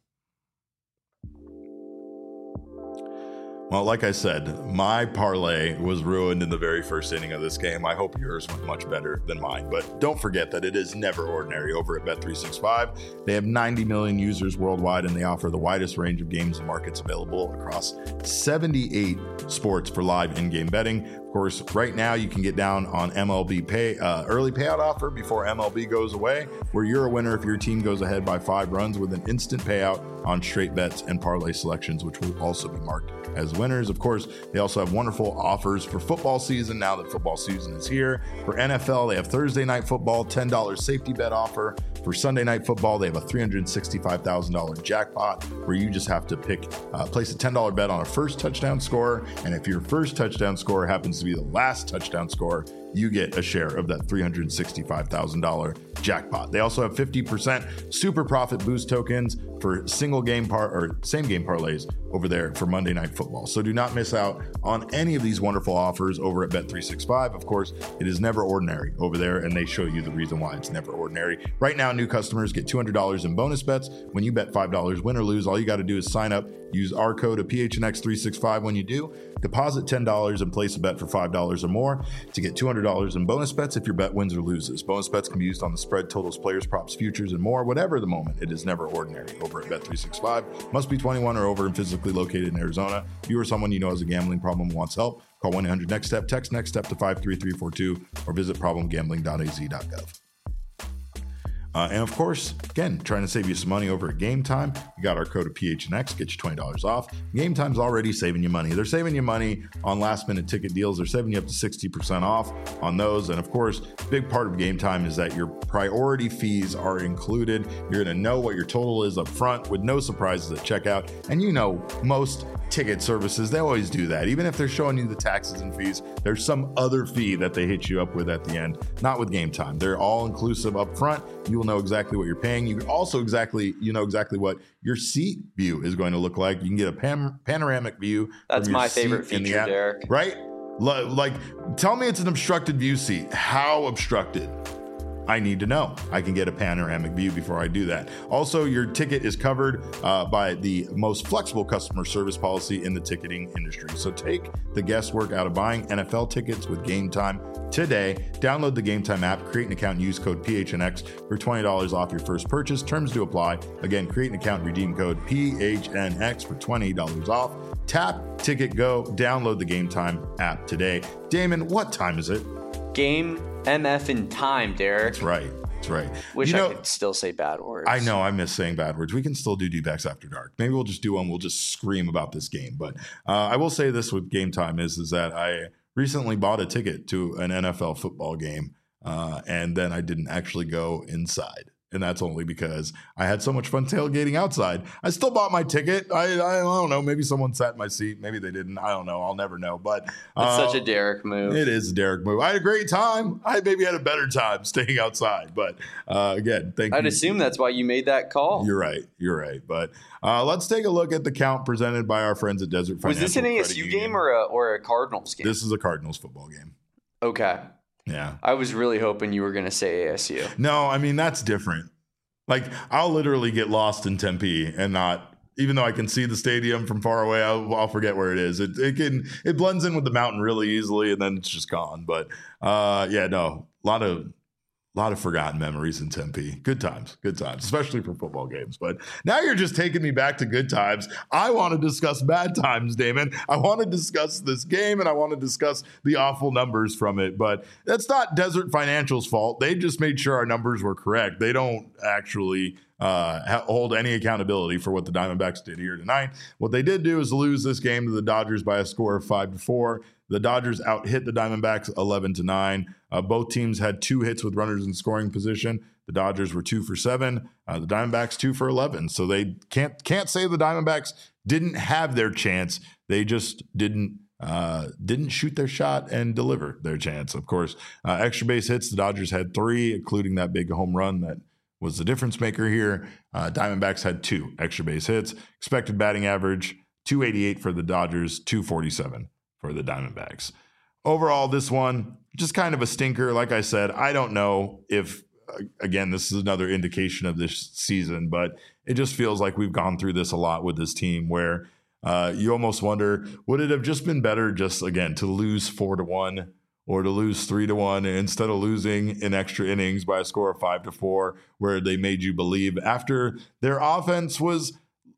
Well, like I said, my parlay was ruined in the very first inning of this game. I hope yours went much better than mine. But don't forget that it is never ordinary over at Bet three sixty-five. They have ninety million users worldwide, and they offer the widest range of games and markets available across seventy-eight sports for live in-game betting. Of course, right now you can get down on M L B pay uh, early payout offer before M L B goes away, where you're a winner if your team goes ahead by five runs with an instant payout on straight bets and parlay selections, which will also be marked as winners. Of course, they also have wonderful offers for football season now that football season is here. For N F L, they have Thursday Night Football, ten dollars safety bet offer. For Sunday Night Football, they have a three hundred sixty-five thousand dollars jackpot where you just have to pick, uh, place a ten dollars bet on a first touchdown score. And if your first touchdown score happens to be the last touchdown score, you get a share of that three hundred sixty-five thousand dollars jackpot. They also have fifty percent super profit boost tokens for single game par or same game parlays over there for Monday Night Football. So do not miss out on any of these wonderful offers over at Bet three sixty-five. Of course, it is never ordinary over there, and they show you the reason why it's never ordinary. Right now, new customers get two hundred dollars in bonus bets when you bet five dollars win or lose. All you got to do is sign up, use our code of P H N X three sixty-five when you do, deposit ten dollars and place a bet for five dollars or more to get two hundred dollars in bonus bets if your bet wins or loses. Bonus bets can be used on the spread, totals, players, props, futures, and more. Whatever the moment, it is never ordinary over at Bet three sixty-five. Must be twenty-one or over and physically located in Arizona. If you or someone you know has a gambling problem and wants help, call one eight hundred next step, text next step to five three three four two, or visit problem gambling dot a z dot gov. Uh, and of course, again, trying to save you some money over at Game Time. You got our code of P H N X, get you twenty dollars off. Game Time's already saving you money. They're saving you money on last minute ticket deals. They're saving you up to sixty percent off on those. And of course, big part of Game Time is that your priority fees are included. You're going to know what your total is up front with no surprises at checkout. And you know, most ticket services, they always do that. Even if they're showing you the taxes and fees, there's some other fee that they hit you up with at the end. Not with Game Time. They're all inclusive up front. You will know exactly what you're paying. You also exactly, you know exactly what your seat view is going to look like. You can get a pan- panoramic view. That's my favorite feature, app, Derek. Right? Like, tell me it's an obstructed view seat. How obstructed? I need to know. I can get a panoramic view before I do that. Also, your ticket is covered uh, by the most flexible customer service policy in the ticketing industry. So take the guesswork out of buying N F L tickets with Game Time today. Download the Game Time app, create an account, and use code P H N X for twenty dollars off your first purchase. Terms to apply. Again, create an account, redeem code P H N X for twenty dollars off. Tap, ticket, go. Download the Game Time app today. Damon, what time is it? Game M F in time, Derek. That's right. That's right. Wish you know, I could still say bad words. I know. I miss saying bad words. We can still do D-backs after dark. Maybe we'll just do one. We'll just scream about this game. But uh, I will say this with Game Time is, is that I recently bought a ticket to an N F L football game, uh, and then I didn't actually go inside. And that's only because I had so much fun tailgating outside. I still bought my ticket. I, I don't know. Maybe someone sat in my seat. Maybe they didn't. I don't know. I'll never know. But uh, it's such a Derek move. It is a Derek move. I had a great time. I maybe had a better time staying outside. But uh, again, thank I'd you. I'd assume that's why you made that call. You're right. You're right. But uh, let's take a look at the count presented by our friends at Desert Financial. Was this an A S U Union. game or a, or a Cardinals game? This is a Cardinals football game. Okay. Yeah. I was really hoping you were going to say A S U. No, I mean, that's different. Like, I'll literally get lost in Tempe and not, even though I can see the stadium from far away, I'll, I'll forget where it is. It it can it blends in with the mountain really easily, and then it's just gone. But uh, yeah, no, a lot of a lot of forgotten memories in Tempe. Good times, good times, especially for football games. But now you're just taking me back to good times. I want to discuss bad times, Damon. I want to discuss this game, and I want to discuss the awful numbers from it. But that's not Desert Financial's fault. They just made sure our numbers were correct. They don't actually uh, hold any accountability for what the Diamondbacks did here tonight. What they did do is lose this game to the Dodgers by a score of five to four. The Dodgers out hit the Diamondbacks eleven to nine. Uh, both teams had two hits with runners in scoring position. The Dodgers were two for seven. Uh, the Diamondbacks two for eleven. So they can't can't say the Diamondbacks didn't have their chance. They just didn't uh, didn't shoot their shot and deliver their chance. Of course, uh, extra base hits. The Dodgers had three, including that big home run that was the difference maker here. Uh, Diamondbacks had two extra base hits. Expected batting average two eighty-eight for the Dodgers, two forty-seven for the Diamondbacks. Overall, this one, just kind of a stinker. Like I said, I don't know if, again, this is another indication of this season, but it just feels like we've gone through this a lot with this team where uh, you almost wonder, would it have just been better just, again, to lose four to one or to lose three to one instead of losing in extra innings by a score of five to four, where they made you believe after their offense was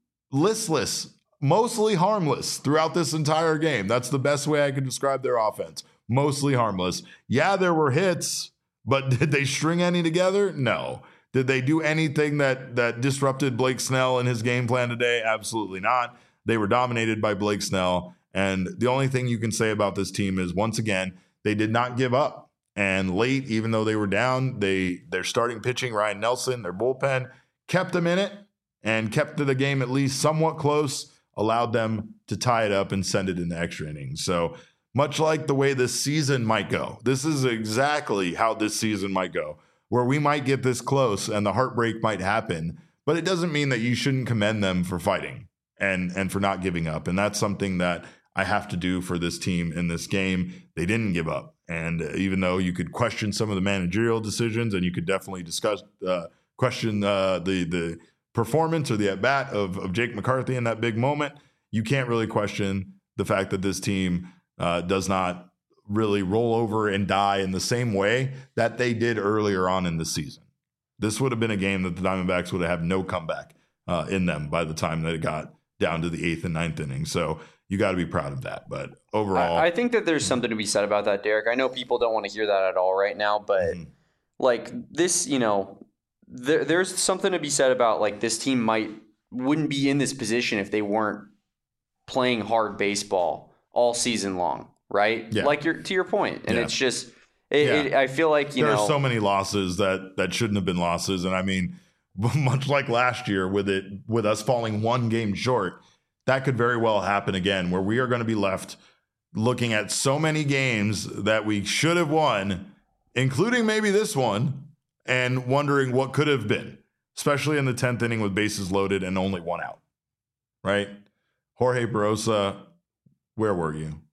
listless, mostly harmless throughout this entire game. That's the best way I could describe their offense. Mostly harmless. Yeah, there were hits, but did they string any together? No. Did they do anything that that disrupted Blake Snell and his game plan today? Absolutely not. They were dominated by Blake Snell. And the only thing you can say about this team is, once again, they did not give up. And late, even though they were down, they their starting pitching, Ryan Nelson, their bullpen, kept them in it and kept the game at least somewhat close, allowed them to tie it up and send it into extra innings. So much like the way this season might go, this is exactly how this season might go, where we might get this close and the heartbreak might happen, but it doesn't mean that you shouldn't commend them for fighting and, and for not giving up. And that's something that I have to do for this team in this game. They didn't give up. And even though you could question some of the managerial decisions, and you could definitely discuss, uh, question uh, the, the, performance or the at-bat of, of Jake McCarthy in that big moment, you can't really question the fact that this team uh, does not really roll over and die in the same way that they did earlier on in the season. This would have been a game that the Diamondbacks would have had no comeback uh, in them by the time that it got down to the eighth and ninth inning. So you got to be proud of that. But overall, I, I think that there's something to be said about that, Derek. I know people don't want to hear that at all right now, but mm-hmm. like this, you know, There, there's something to be said about, like, this team might wouldn't be in this position if they weren't playing hard baseball all season long, right? Yeah. Like you're to your point, and yeah. it's just it, yeah. it, I feel like you there know are so many losses that that shouldn't have been losses, and I mean, much like last year with it with us falling one game short, that could very well happen again, where we are going to be left looking at so many games that we should have won, including maybe this one, and wondering what could have been, especially in the tenth inning with bases loaded and only one out, right? Jorge Barosa, where were you?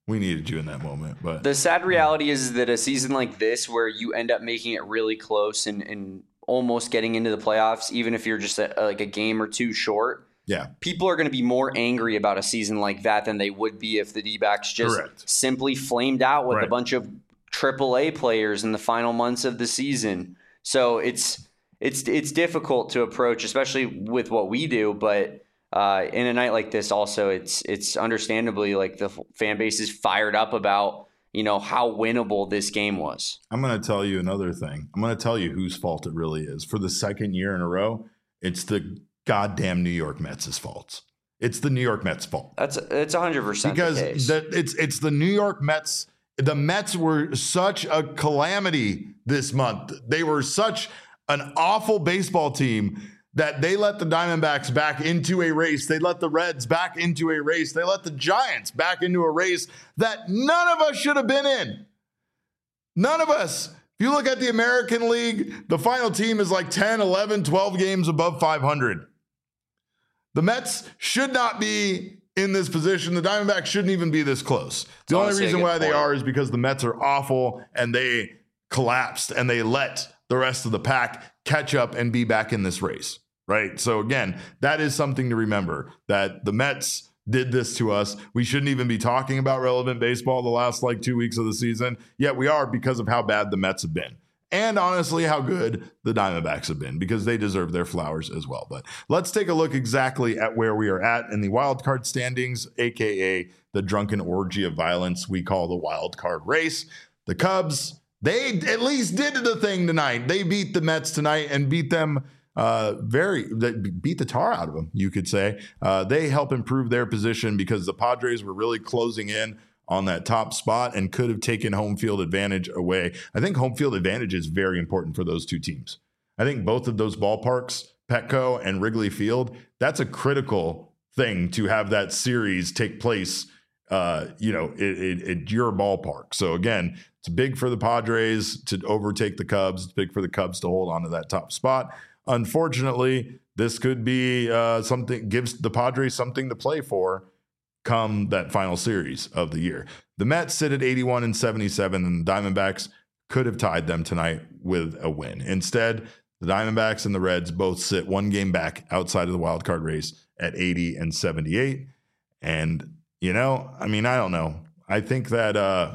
We needed you in that moment. But the sad reality is that a season like this, where you end up making it really close and, and almost getting into the playoffs, even if you're just a, like a game or two short, yeah, people are going to be more angry about a season like that than they would be if the D-backs just Correct. simply flamed out with right. a bunch of triple A players in the final months of the season. So it's it's it's difficult to approach, especially with what we do. But uh, in a night like this, also it's it's understandably like the fan base is fired up about, you know, how winnable this game was. I'm going to tell you another thing. I'm going to tell you whose fault it really is. For the second year in a row, it's the goddamn New York Mets' fault. It's the New York Mets' fault. That's it's one hundred percent because the case. The, it's it's the New York Mets. The Mets were such a calamity this month. They were such an awful baseball team that they let the Diamondbacks back into a race. They let the Reds back into a race. They let the Giants back into a race that none of us should have been in. None of us. If you look at the American League, the final team is like ten, eleven, twelve games above five hundred. The Mets should not be in this position. The Diamondbacks shouldn't even be this close. The only reason why they are is because the Mets are awful and they collapsed and they let the rest of the pack catch up and be back in this race, right? So again, that is something to remember, that the Mets did this to us. We shouldn't even be talking about relevant baseball the last like two weeks of the season, yet we are because of how bad the Mets have been. And honestly, how good the Diamondbacks have been, because they deserve their flowers as well. But let's take a look exactly at where we are at in the wild card standings, a k a the drunken orgy of violence we call the wild card race. The Cubs, they at least did the thing tonight. They beat the Mets tonight and beat them uh, very, beat the tar out of them, you could say. Uh, they help improve their position because the Padres were really closing in on that top spot and could have taken home field advantage away. I think home field advantage is very important for those two teams. I think both of those ballparks, Petco and Wrigley Field, that's a critical thing to have that series take place, uh, you know, at your ballpark. So again, it's big for the Padres to overtake the Cubs. It's big for the Cubs to hold on to that top spot. Unfortunately, this could be uh, something, gives the Padres something to play for come that final series of the year. The Mets sit at eighty-one and seventy-seven, and the Diamondbacks could have tied them tonight with a win. Instead, the Diamondbacks and the Reds both sit one game back outside of the wild card race at eighty and seventy-eight. And, you know, I mean, I don't know. I think that uh,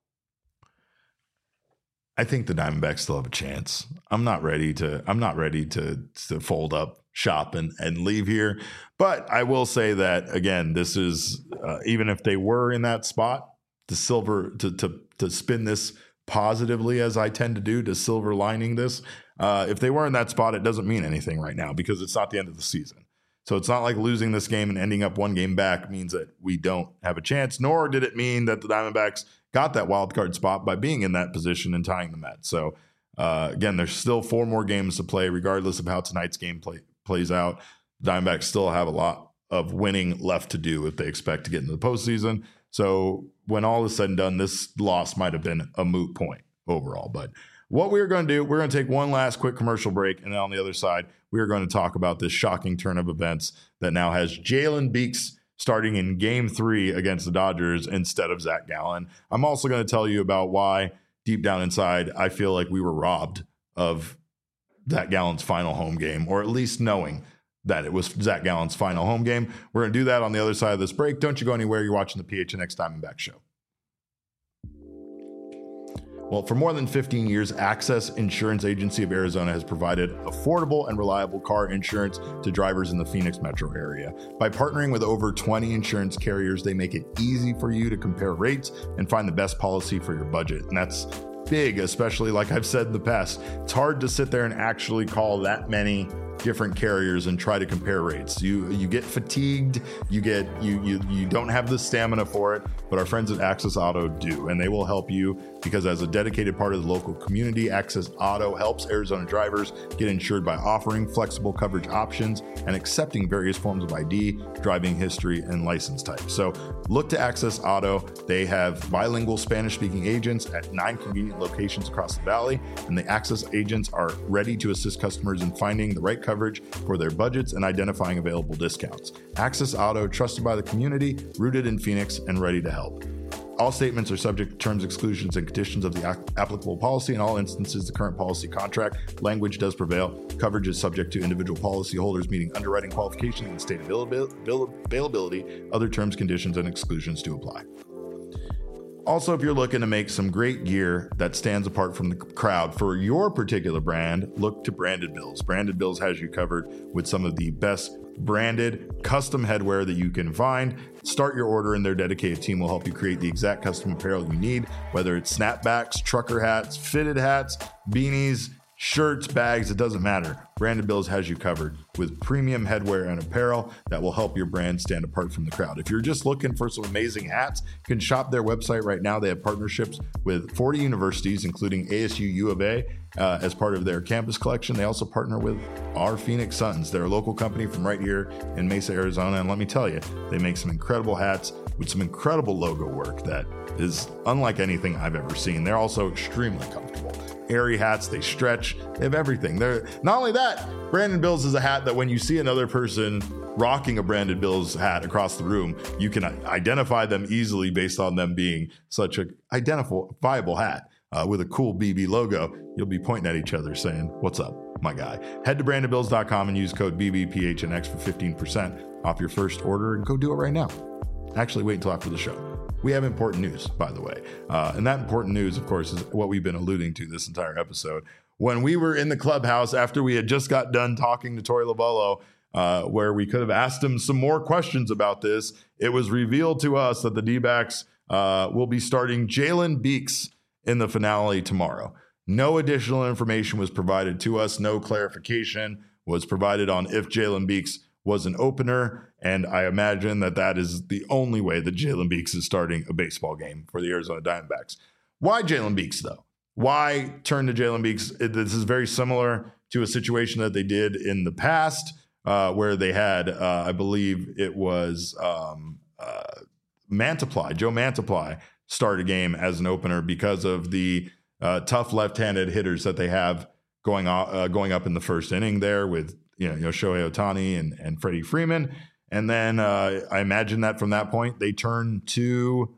I think the Diamondbacks still have a chance. I'm not ready to I'm not ready to to fold up shop and, and leave here. But I will say that, again, this is, uh, even if they were in that spot, to silver, to, to, to spin this positively, as I tend to do, to silver lining this, uh, if they were in that spot, it doesn't mean anything right now because it's not the end of the season. So it's not like losing this game and ending up one game back means that we don't have a chance, nor did it mean that the Diamondbacks got that wild card spot by being in that position and tying the Mets. So uh, again, there's still four more games to play, regardless of how tonight's game play, plays out. The Diamondbacks still have a lot of winning left to do if they expect to get into the postseason. So when all is said and done, this loss might have been a moot point overall. But what we're going to do, we're going to take one last quick commercial break, and then on the other side, we are going to talk about this shocking turn of events that now has Jalen Beeks starting in game three against the Dodgers instead of Zach Gallen. I'm also going to tell you about why, deep down inside, I feel like we were robbed of Zach Gallen's final home game, or at least knowing that it was Zach Gallen's final home game. We're going to do that on the other side of this break. Don't you go anywhere. You're watching the P H N X Diamondback Show. Well, for more than fifteen years, Access Insurance Agency of Arizona has provided affordable and reliable car insurance to drivers in the Phoenix metro area. By partnering with over twenty insurance carriers, they make it easy for you to compare rates and find the best policy for your budget. And that's big, especially like I've said in the past. It's hard to sit there and actually call that many different carriers and try to compare rates. You you get fatigued, you get you you you don't have the stamina for it, but our friends at Access Auto do, and they will help you because as a dedicated part of the local community, Access Auto helps Arizona drivers get insured by offering flexible coverage options and accepting various forms of I D, driving history, and license type. So look to Access Auto. They have bilingual Spanish-speaking agents at nine convenient locations across the valley, and the Access agents are ready to assist customers in finding the right coverage for their budgets and identifying available discounts. Access Auto, trusted by the community, rooted in Phoenix, and ready to help. All statements are subject to terms, exclusions, and conditions of the applicable policy. In all instances, the current policy contract language does prevail. Coverage is subject to individual policyholders meeting underwriting qualifications and state availability. Other terms, conditions, and exclusions do apply. Also, if you're looking to make some great gear that stands apart from the crowd for your particular brand, look to Branded Bills. Branded Bills has you covered with some of the best branded custom headwear that you can find. Start your order and their dedicated team will help you create the exact custom apparel you need, whether it's snapbacks, trucker hats, fitted hats, beanies, shirts, bags, it doesn't matter. Branded Bills has you covered with premium headwear and apparel that will help your brand stand apart from the crowd. If you're just looking for some amazing hats, you can shop their website right now. They have partnerships with forty universities, including A S U U of A, uh, as part of their campus collection. They also partner with our Phoenix Suns. They're a local company from right here in Mesa, Arizona. And let me tell you, they make some incredible hats with some incredible logo work that is unlike anything I've ever seen. They're also extremely comfortable. Airy hats, they stretch, they have everything. They're not only that, Branded Bills is a hat that when you see another person rocking a Branded Bills hat across the room, you can identify them easily based on them being such a identifiable hat uh, with a cool B B logo. You'll be pointing at each other saying, "What's up, my guy?" Head to branded bills dot com and use code B B P H N X for fifteen percent off your first order, and go do it right now. Actually, wait until after the show. We have important news, by the way. Uh, and that important news, of course, is what we've been alluding to this entire episode. When we were in the clubhouse after we had just got done talking to Torey Lovullo, uh, where we could have asked him some more questions about this, it was revealed to us that the D-backs uh, will be starting Jalen Beeks in the finale tomorrow. No additional information was provided to us. No clarification was provided on if Jalen Beeks was an opener, and I imagine that that is the only way that Jalen Beeks is starting a baseball game for the Arizona Diamondbacks. Why Jalen Beeks, though? Why turn to Jalen Beeks? This is very similar to a situation that they did in the past, uh, where they had, uh, I believe it was um, uh, Mantiply, Joe Mantiply, start a game as an opener because of the uh, tough left-handed hitters that they have going uh, going up in the first inning there with you know, you know Shohei Ohtani and, and Freddie Freeman. And then uh, I imagine that from that point, they turned to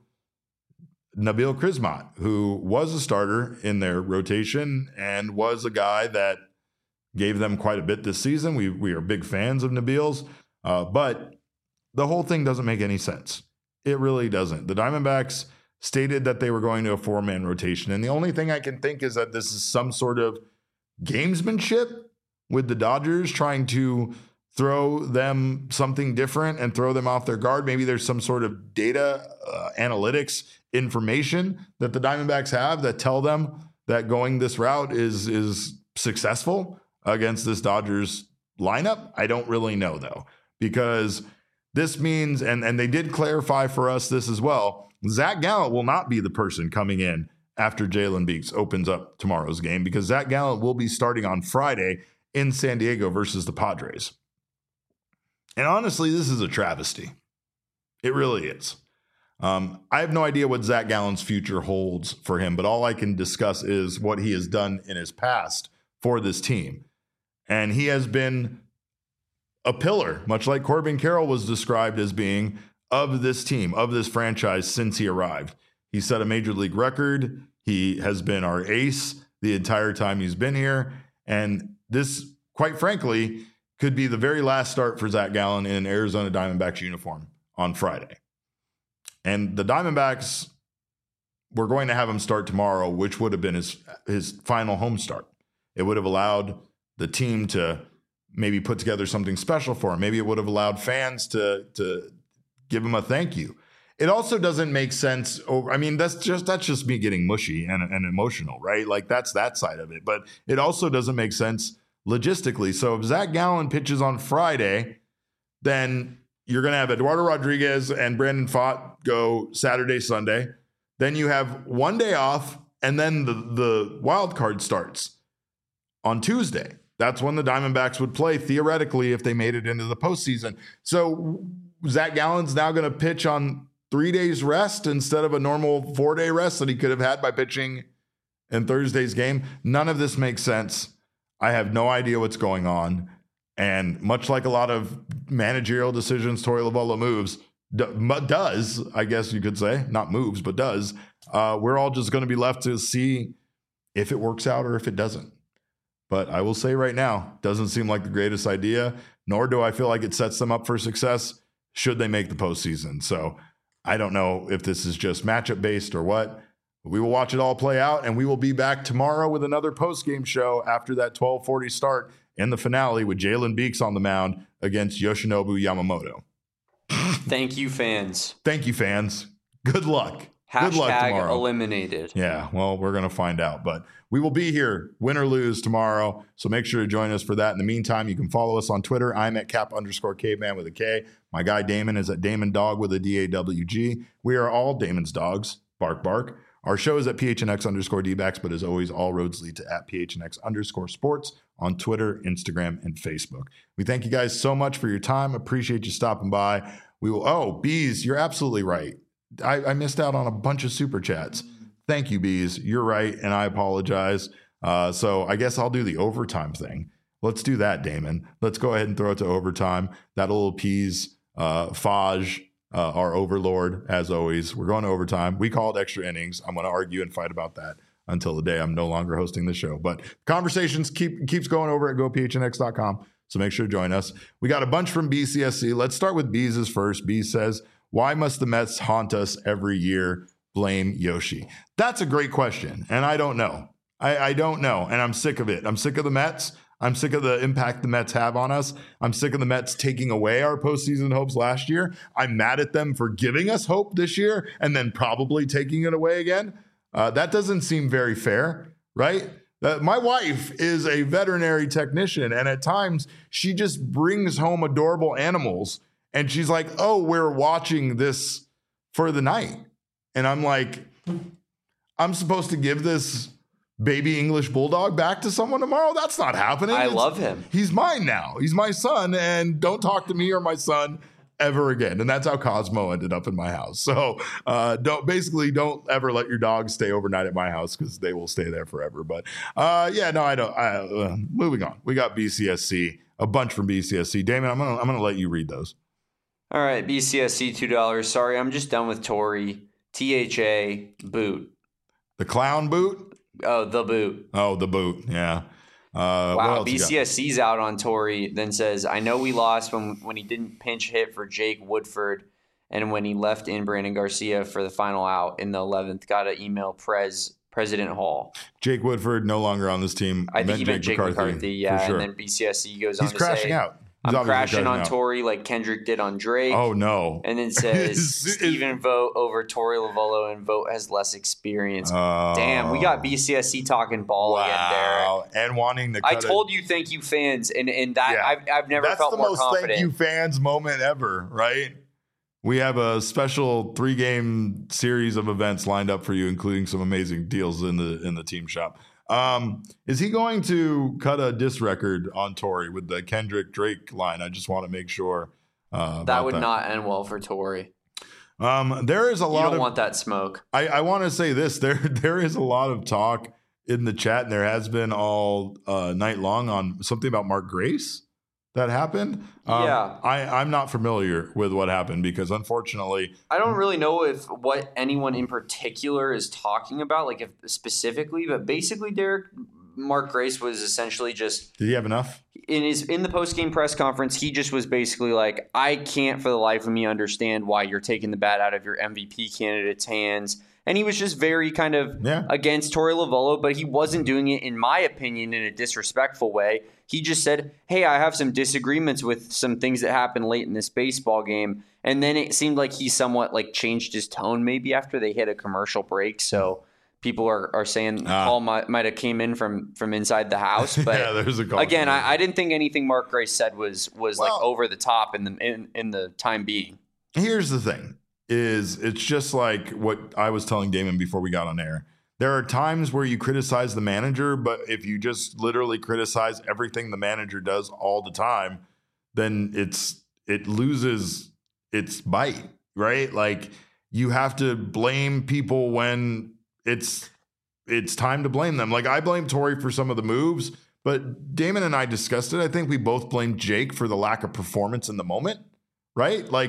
Nabil Crismatt, who was a starter in their rotation and was a guy that gave them quite a bit this season. We we are big fans of Nabil's, uh, but the whole thing doesn't make any sense. It really doesn't. The Diamondbacks stated that they were going to a four-man rotation, and the only thing I can think is that this is some sort of gamesmanship with the Dodgers trying to throw them something different and throw them off their guard. Maybe there's some sort of data uh, analytics information that the Diamondbacks have that tell them that going this route is is successful against this Dodgers lineup. I don't really know, though, because this means, and, and they did clarify for us this as well, Zach Gallant will not be the person coming in after Jalen Beeks opens up tomorrow's game, because Zach Gallant will be starting on Friday in San Diego versus the Padres. And honestly, this is a travesty. It really is. Um, I have no idea what Zach Gallant's future holds for him, but all I can discuss is what he has done in his past for this team. And he has been a pillar, much like Corbin Carroll was described as being, of this team, of this franchise since he arrived. He set a major league record. He has been our ace the entire time he's been here. And this, quite frankly, could be the very last start for Zach Gallant in an Arizona Diamondbacks uniform on Friday. And the Diamondbacks were going to have him start tomorrow, which would have been his, his final home start. It would have allowed the team to maybe put together something special for him. Maybe it would have allowed fans to, to give him a thank you. It also doesn't make sense. Over, I mean, that's just that's just me getting mushy and, and emotional, right? Like that's that side of it. But it also doesn't make sense logistically. So if Zach Gallant pitches on Friday, then you're going to have Eduardo Rodriguez and Brandon Pfaadt go Saturday, Sunday. Then you have one day off, and then the, the wild card starts on Tuesday. That's when the Diamondbacks would play, theoretically, if they made it into the postseason. So Zach Gallant's now going to pitch on three days rest instead of a normal four-day rest that he could have had by pitching in Thursday's game. None of this makes sense. I have no idea what's going on. And much like a lot of managerial decisions Torey Lovullo moves, does, I guess you could say, not moves, but does, uh, we're all just going to be left to see if it works out or if it doesn't. But I will say right now, doesn't seem like the greatest idea, nor do I feel like it sets them up for success should they make the postseason. So I don't know if this is just matchup based or what. We will watch it all play out, and we will be back tomorrow with another post-game show after that twelve forty start in the finale with Jalen Beeks on the mound against Yoshinobu Yamamoto. Thank you, fans. Thank you, fans. Good luck. Hashtag Good luck tomorrow. Eliminated. Yeah, well, we're going to find out. But we will be here, win or lose, tomorrow. So make sure to join us for that. In the meantime, you can follow us on Twitter. I'm at cap underscore caveman with a K. My guy Damon is at Damon Dog with a D A W G. We are all Damon's dogs. Bark, bark. Our show is at P H N X underscore D-backs, but as always, all roads lead to at P H N X underscore sports on Twitter, Instagram, and Facebook. We thank you guys so much for your time. Appreciate you stopping by. We will, oh, Bees, you're absolutely right. I, I missed out on a bunch of super chats. Thank you, Bees. You're right, and I apologize. Uh, so I guess I'll do the overtime thing. Let's do that, Damon. Let's go ahead and throw it to overtime. That'll appease uh, Faj, uh, our overlord, as always. We're going to overtime. We call it extra innings. I'm going to argue and fight about that until the day I'm no longer hosting the show. But conversations keep keeps going over at go P H N X dot com, so make sure to join us. We got a bunch from B C S C. Let's start with Bees' first. Bees says, why must the Mets haunt us every year? Blame Yoshi. That's a great question, and I don't know. I, I don't know, and I'm sick of it. I'm sick of the Mets. I'm sick of the impact the Mets have on us. I'm sick of the Mets taking away our postseason hopes last year. I'm mad at them for giving us hope this year and then probably taking it away again. Uh, that doesn't seem very fair, right? Uh, my wife is a veterinary technician, and at times she just brings home adorable animals, and she's like, oh, we're watching this for the night. And I'm like, I'm supposed to give this baby English bulldog back to someone tomorrow? That's not happening. I it's, love him. He's mine now. He's my son, and don't talk to me or my son ever again. And that's how Cosmo ended up in my house. So uh, don't basically don't ever let your dog stay overnight at my house because they will stay there forever. But uh, yeah, no, I don't. I, uh, moving on. We got B C S C, a bunch from B C S C. Damon, I'm gonna I'm gonna let you read those. All right, B C S C two dollars. Sorry, I'm just done with Tory. T H A boot. The clown boot. Oh, the boot. Oh, the boot. Yeah. Uh, wow. B C S C's out on Tory. Then says, I know we lost when when he didn't pinch hit for Jake Woodford, and when he left in Brandon Garcia for the final out in the eleventh. Got to email Prez President Hall. Jake Woodford no longer on this team. I think meant he meant Jake, Jake McCarthy, McCarthy. Yeah, sure. And then B C S C goes He's on to crashing say, out. He's I'm crashing on out. Tory like Kendrick did on Drake. Oh, no. And then says, Steven vote over Tory Lovullo, and vote has less experience. Uh, Damn, we got B C S C talking ball wow. again, Derek. And wanting to cut I told it. you thank you, fans. And, and that yeah. I've, I've never That's felt the more most confident. Thank you, fans moment ever, right? We have a special three-game series of events lined up for you, including some amazing deals in the in the team shop. Um, is he going to cut a diss record on Tory with the Kendrick Drake line? I just want to make sure. Uh, that would that. not end well for Tory. Um, there is a lot you don't of want that smoke. I, I want to say this. There there is a lot of talk in the chat, and there has been all uh, night long on something about Mark Grace that happened. Um, yeah. I, I'm not familiar with what happened because unfortunately I don't really know if what anyone in particular is talking about, like if specifically, but basically Derek Mark Grace was essentially just Did he have enough? In his in the post-game press conference, he just was basically like, I can't for the life of me understand why you're taking the bat out of your M V P candidate's hands. And he was just very kind of yeah. against Tory Lovullo, but he wasn't doing it, in my opinion, in a disrespectful way. He just said, hey, I have some disagreements with some things that happened late in this baseball game. And then it seemed like he somewhat like changed his tone maybe after they hit a commercial break. So people are, are saying ah. Paul might, might have came in from, from inside the house. But yeah, there's a call again, I, I didn't think anything Mark Grace said was was well, like over the top in the in, in the time being. Here's the thing. Is it's just like what I was telling Damon before we got on air. There are times where you criticize the manager, but if you just literally criticize everything the manager does all the time, then it's it loses its bite, right? Like you have to blame people when it's it's time to blame them. Like I blame Tory for some of the moves, but Damon and I discussed it. I think we both blamed Jake for the lack of performance in the moment, right? Like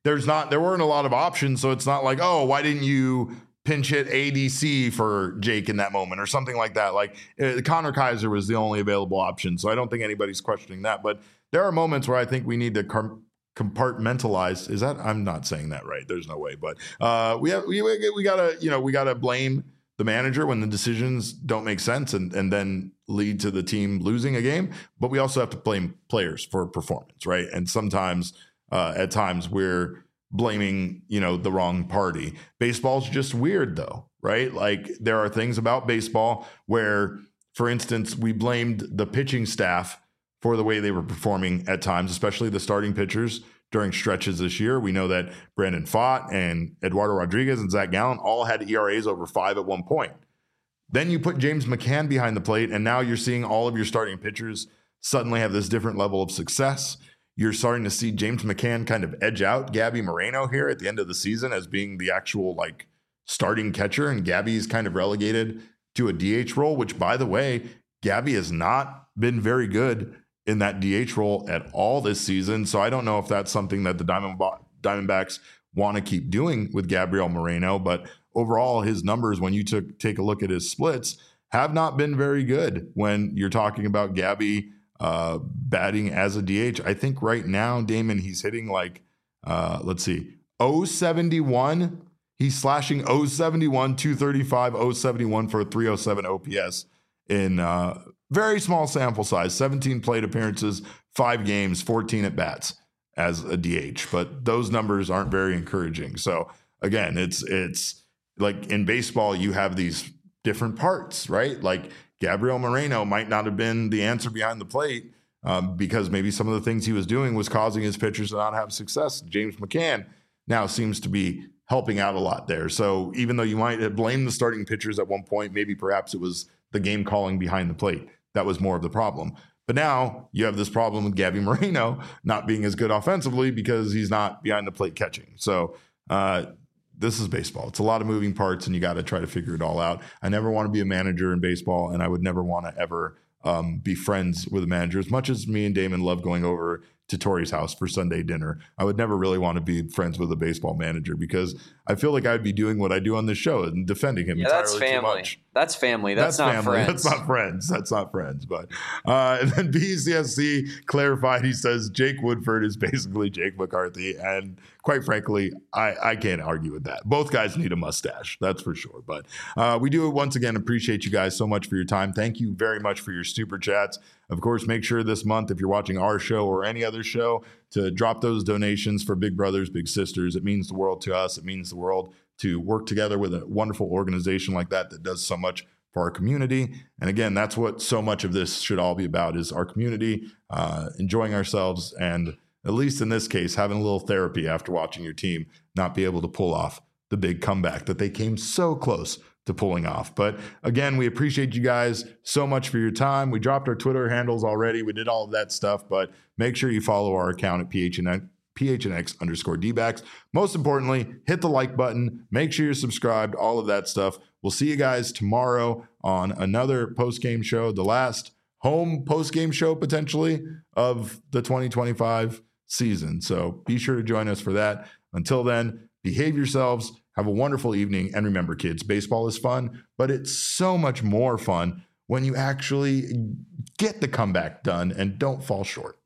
there's not, there weren't a lot of options. So it's not like, oh, why didn't you pinch hit A D C for Jake in that moment or something like that? Like uh, Connor Kaiser was the only available option. So I don't think anybody's questioning that. But there are moments where I think we need to com- compartmentalize. Is that, I'm not saying that right. There's no way. But uh, we have, we, we gotta, you know, we gotta blame the manager when the decisions don't make sense and, and then lead to the team losing a game. But we also have to blame players for performance, right? And sometimes, uh, at times, we're blaming, you know, the wrong party. Baseball's just weird though, right? Like there are things about baseball where, for instance, we blamed the pitching staff for the way they were performing at times, especially the starting pitchers during stretches this year. We know that Brandon Pfaadt and Eduardo Rodriguez and Zach Gallen all had E R As over five at one point. Then you put James McCann behind the plate, and now you're seeing all of your starting pitchers suddenly have this different level of success. You're starting to see James McCann kind of edge out Gabby Moreno here at the end of the season as being the actual like starting catcher, and Gabby's kind of relegated to a D H role, which, by the way, Gabby has not been very good in that D H role at all this season. So I don't know if that's something that the Diamond Diamondbacks want to keep doing with Gabriel Moreno, but overall his numbers, when you took take a look at his splits, have not been very good when you're talking about Gabby uh, batting as a D H. I think right now, Damon, he's hitting like, uh, let's see, oh seventy-one. He's slashing oh seventy-one, two thirty-five, oh seventy-one for a three oh seven O P S in uh, very small sample size, seventeen plate appearances, five games, fourteen at bats as a D H. But those numbers aren't very encouraging. So again, it's it's like in baseball, you have these different parts, right? Like Gabriel Moreno might not have been the answer behind the plate um, because maybe some of the things he was doing was causing his pitchers to not have success. James McCann now seems to be helping out a lot there. So even though you might have blamed the starting pitchers at one point, maybe perhaps it was the game calling behind the plate that was more of the problem. But now you have this problem with Gabby Moreno not being as good offensively because he's not behind the plate catching. So uh, this is baseball. It's a lot of moving parts, and you got to try to figure it all out. I never want to be a manager in baseball, and I would never want to ever um, be friends with a manager. As much as me and Damon love going over to Tori's house for Sunday dinner, I would never really want to be friends with a baseball manager because I feel like I'd be doing what I do on this show and defending him yeah, entirely that's family. too much. That's family. That's, that's not family. friends. That's not friends. That's not friends. But uh, and then B C S C clarified. He says Jake Woodford is basically Jake McCarthy, and quite frankly, I, I can't argue with that. Both guys need a mustache, that's for sure. But uh, we do once again appreciate you guys so much for your time. Thank you very much for your super chats. Of course, make sure this month, if you're watching our show or any other show, to drop those donations for Big Brothers Big Sisters. It means the world to us. It means the world to work together with a wonderful organization like that that does so much for our community. And again, that's what so much of this should all be about, is our community, uh, enjoying ourselves, and at least in this case, having a little therapy after watching your team not be able to pull off the big comeback that they came so close to pulling off. But again, we appreciate you guys so much for your time. We dropped our Twitter handles already. We did all of that stuff, but make sure you follow our account at P H N X. P H N X underscore D-backs. Most importantly, hit the like button. Make sure you're subscribed, all of that stuff. We'll see you guys tomorrow on another post-game show, the last home post-game show potentially of the twenty twenty-five season. So be sure to join us for that. Until then, behave yourselves. Have a wonderful evening. And remember, kids, baseball is fun, but it's so much more fun when you actually get the comeback done and don't fall short.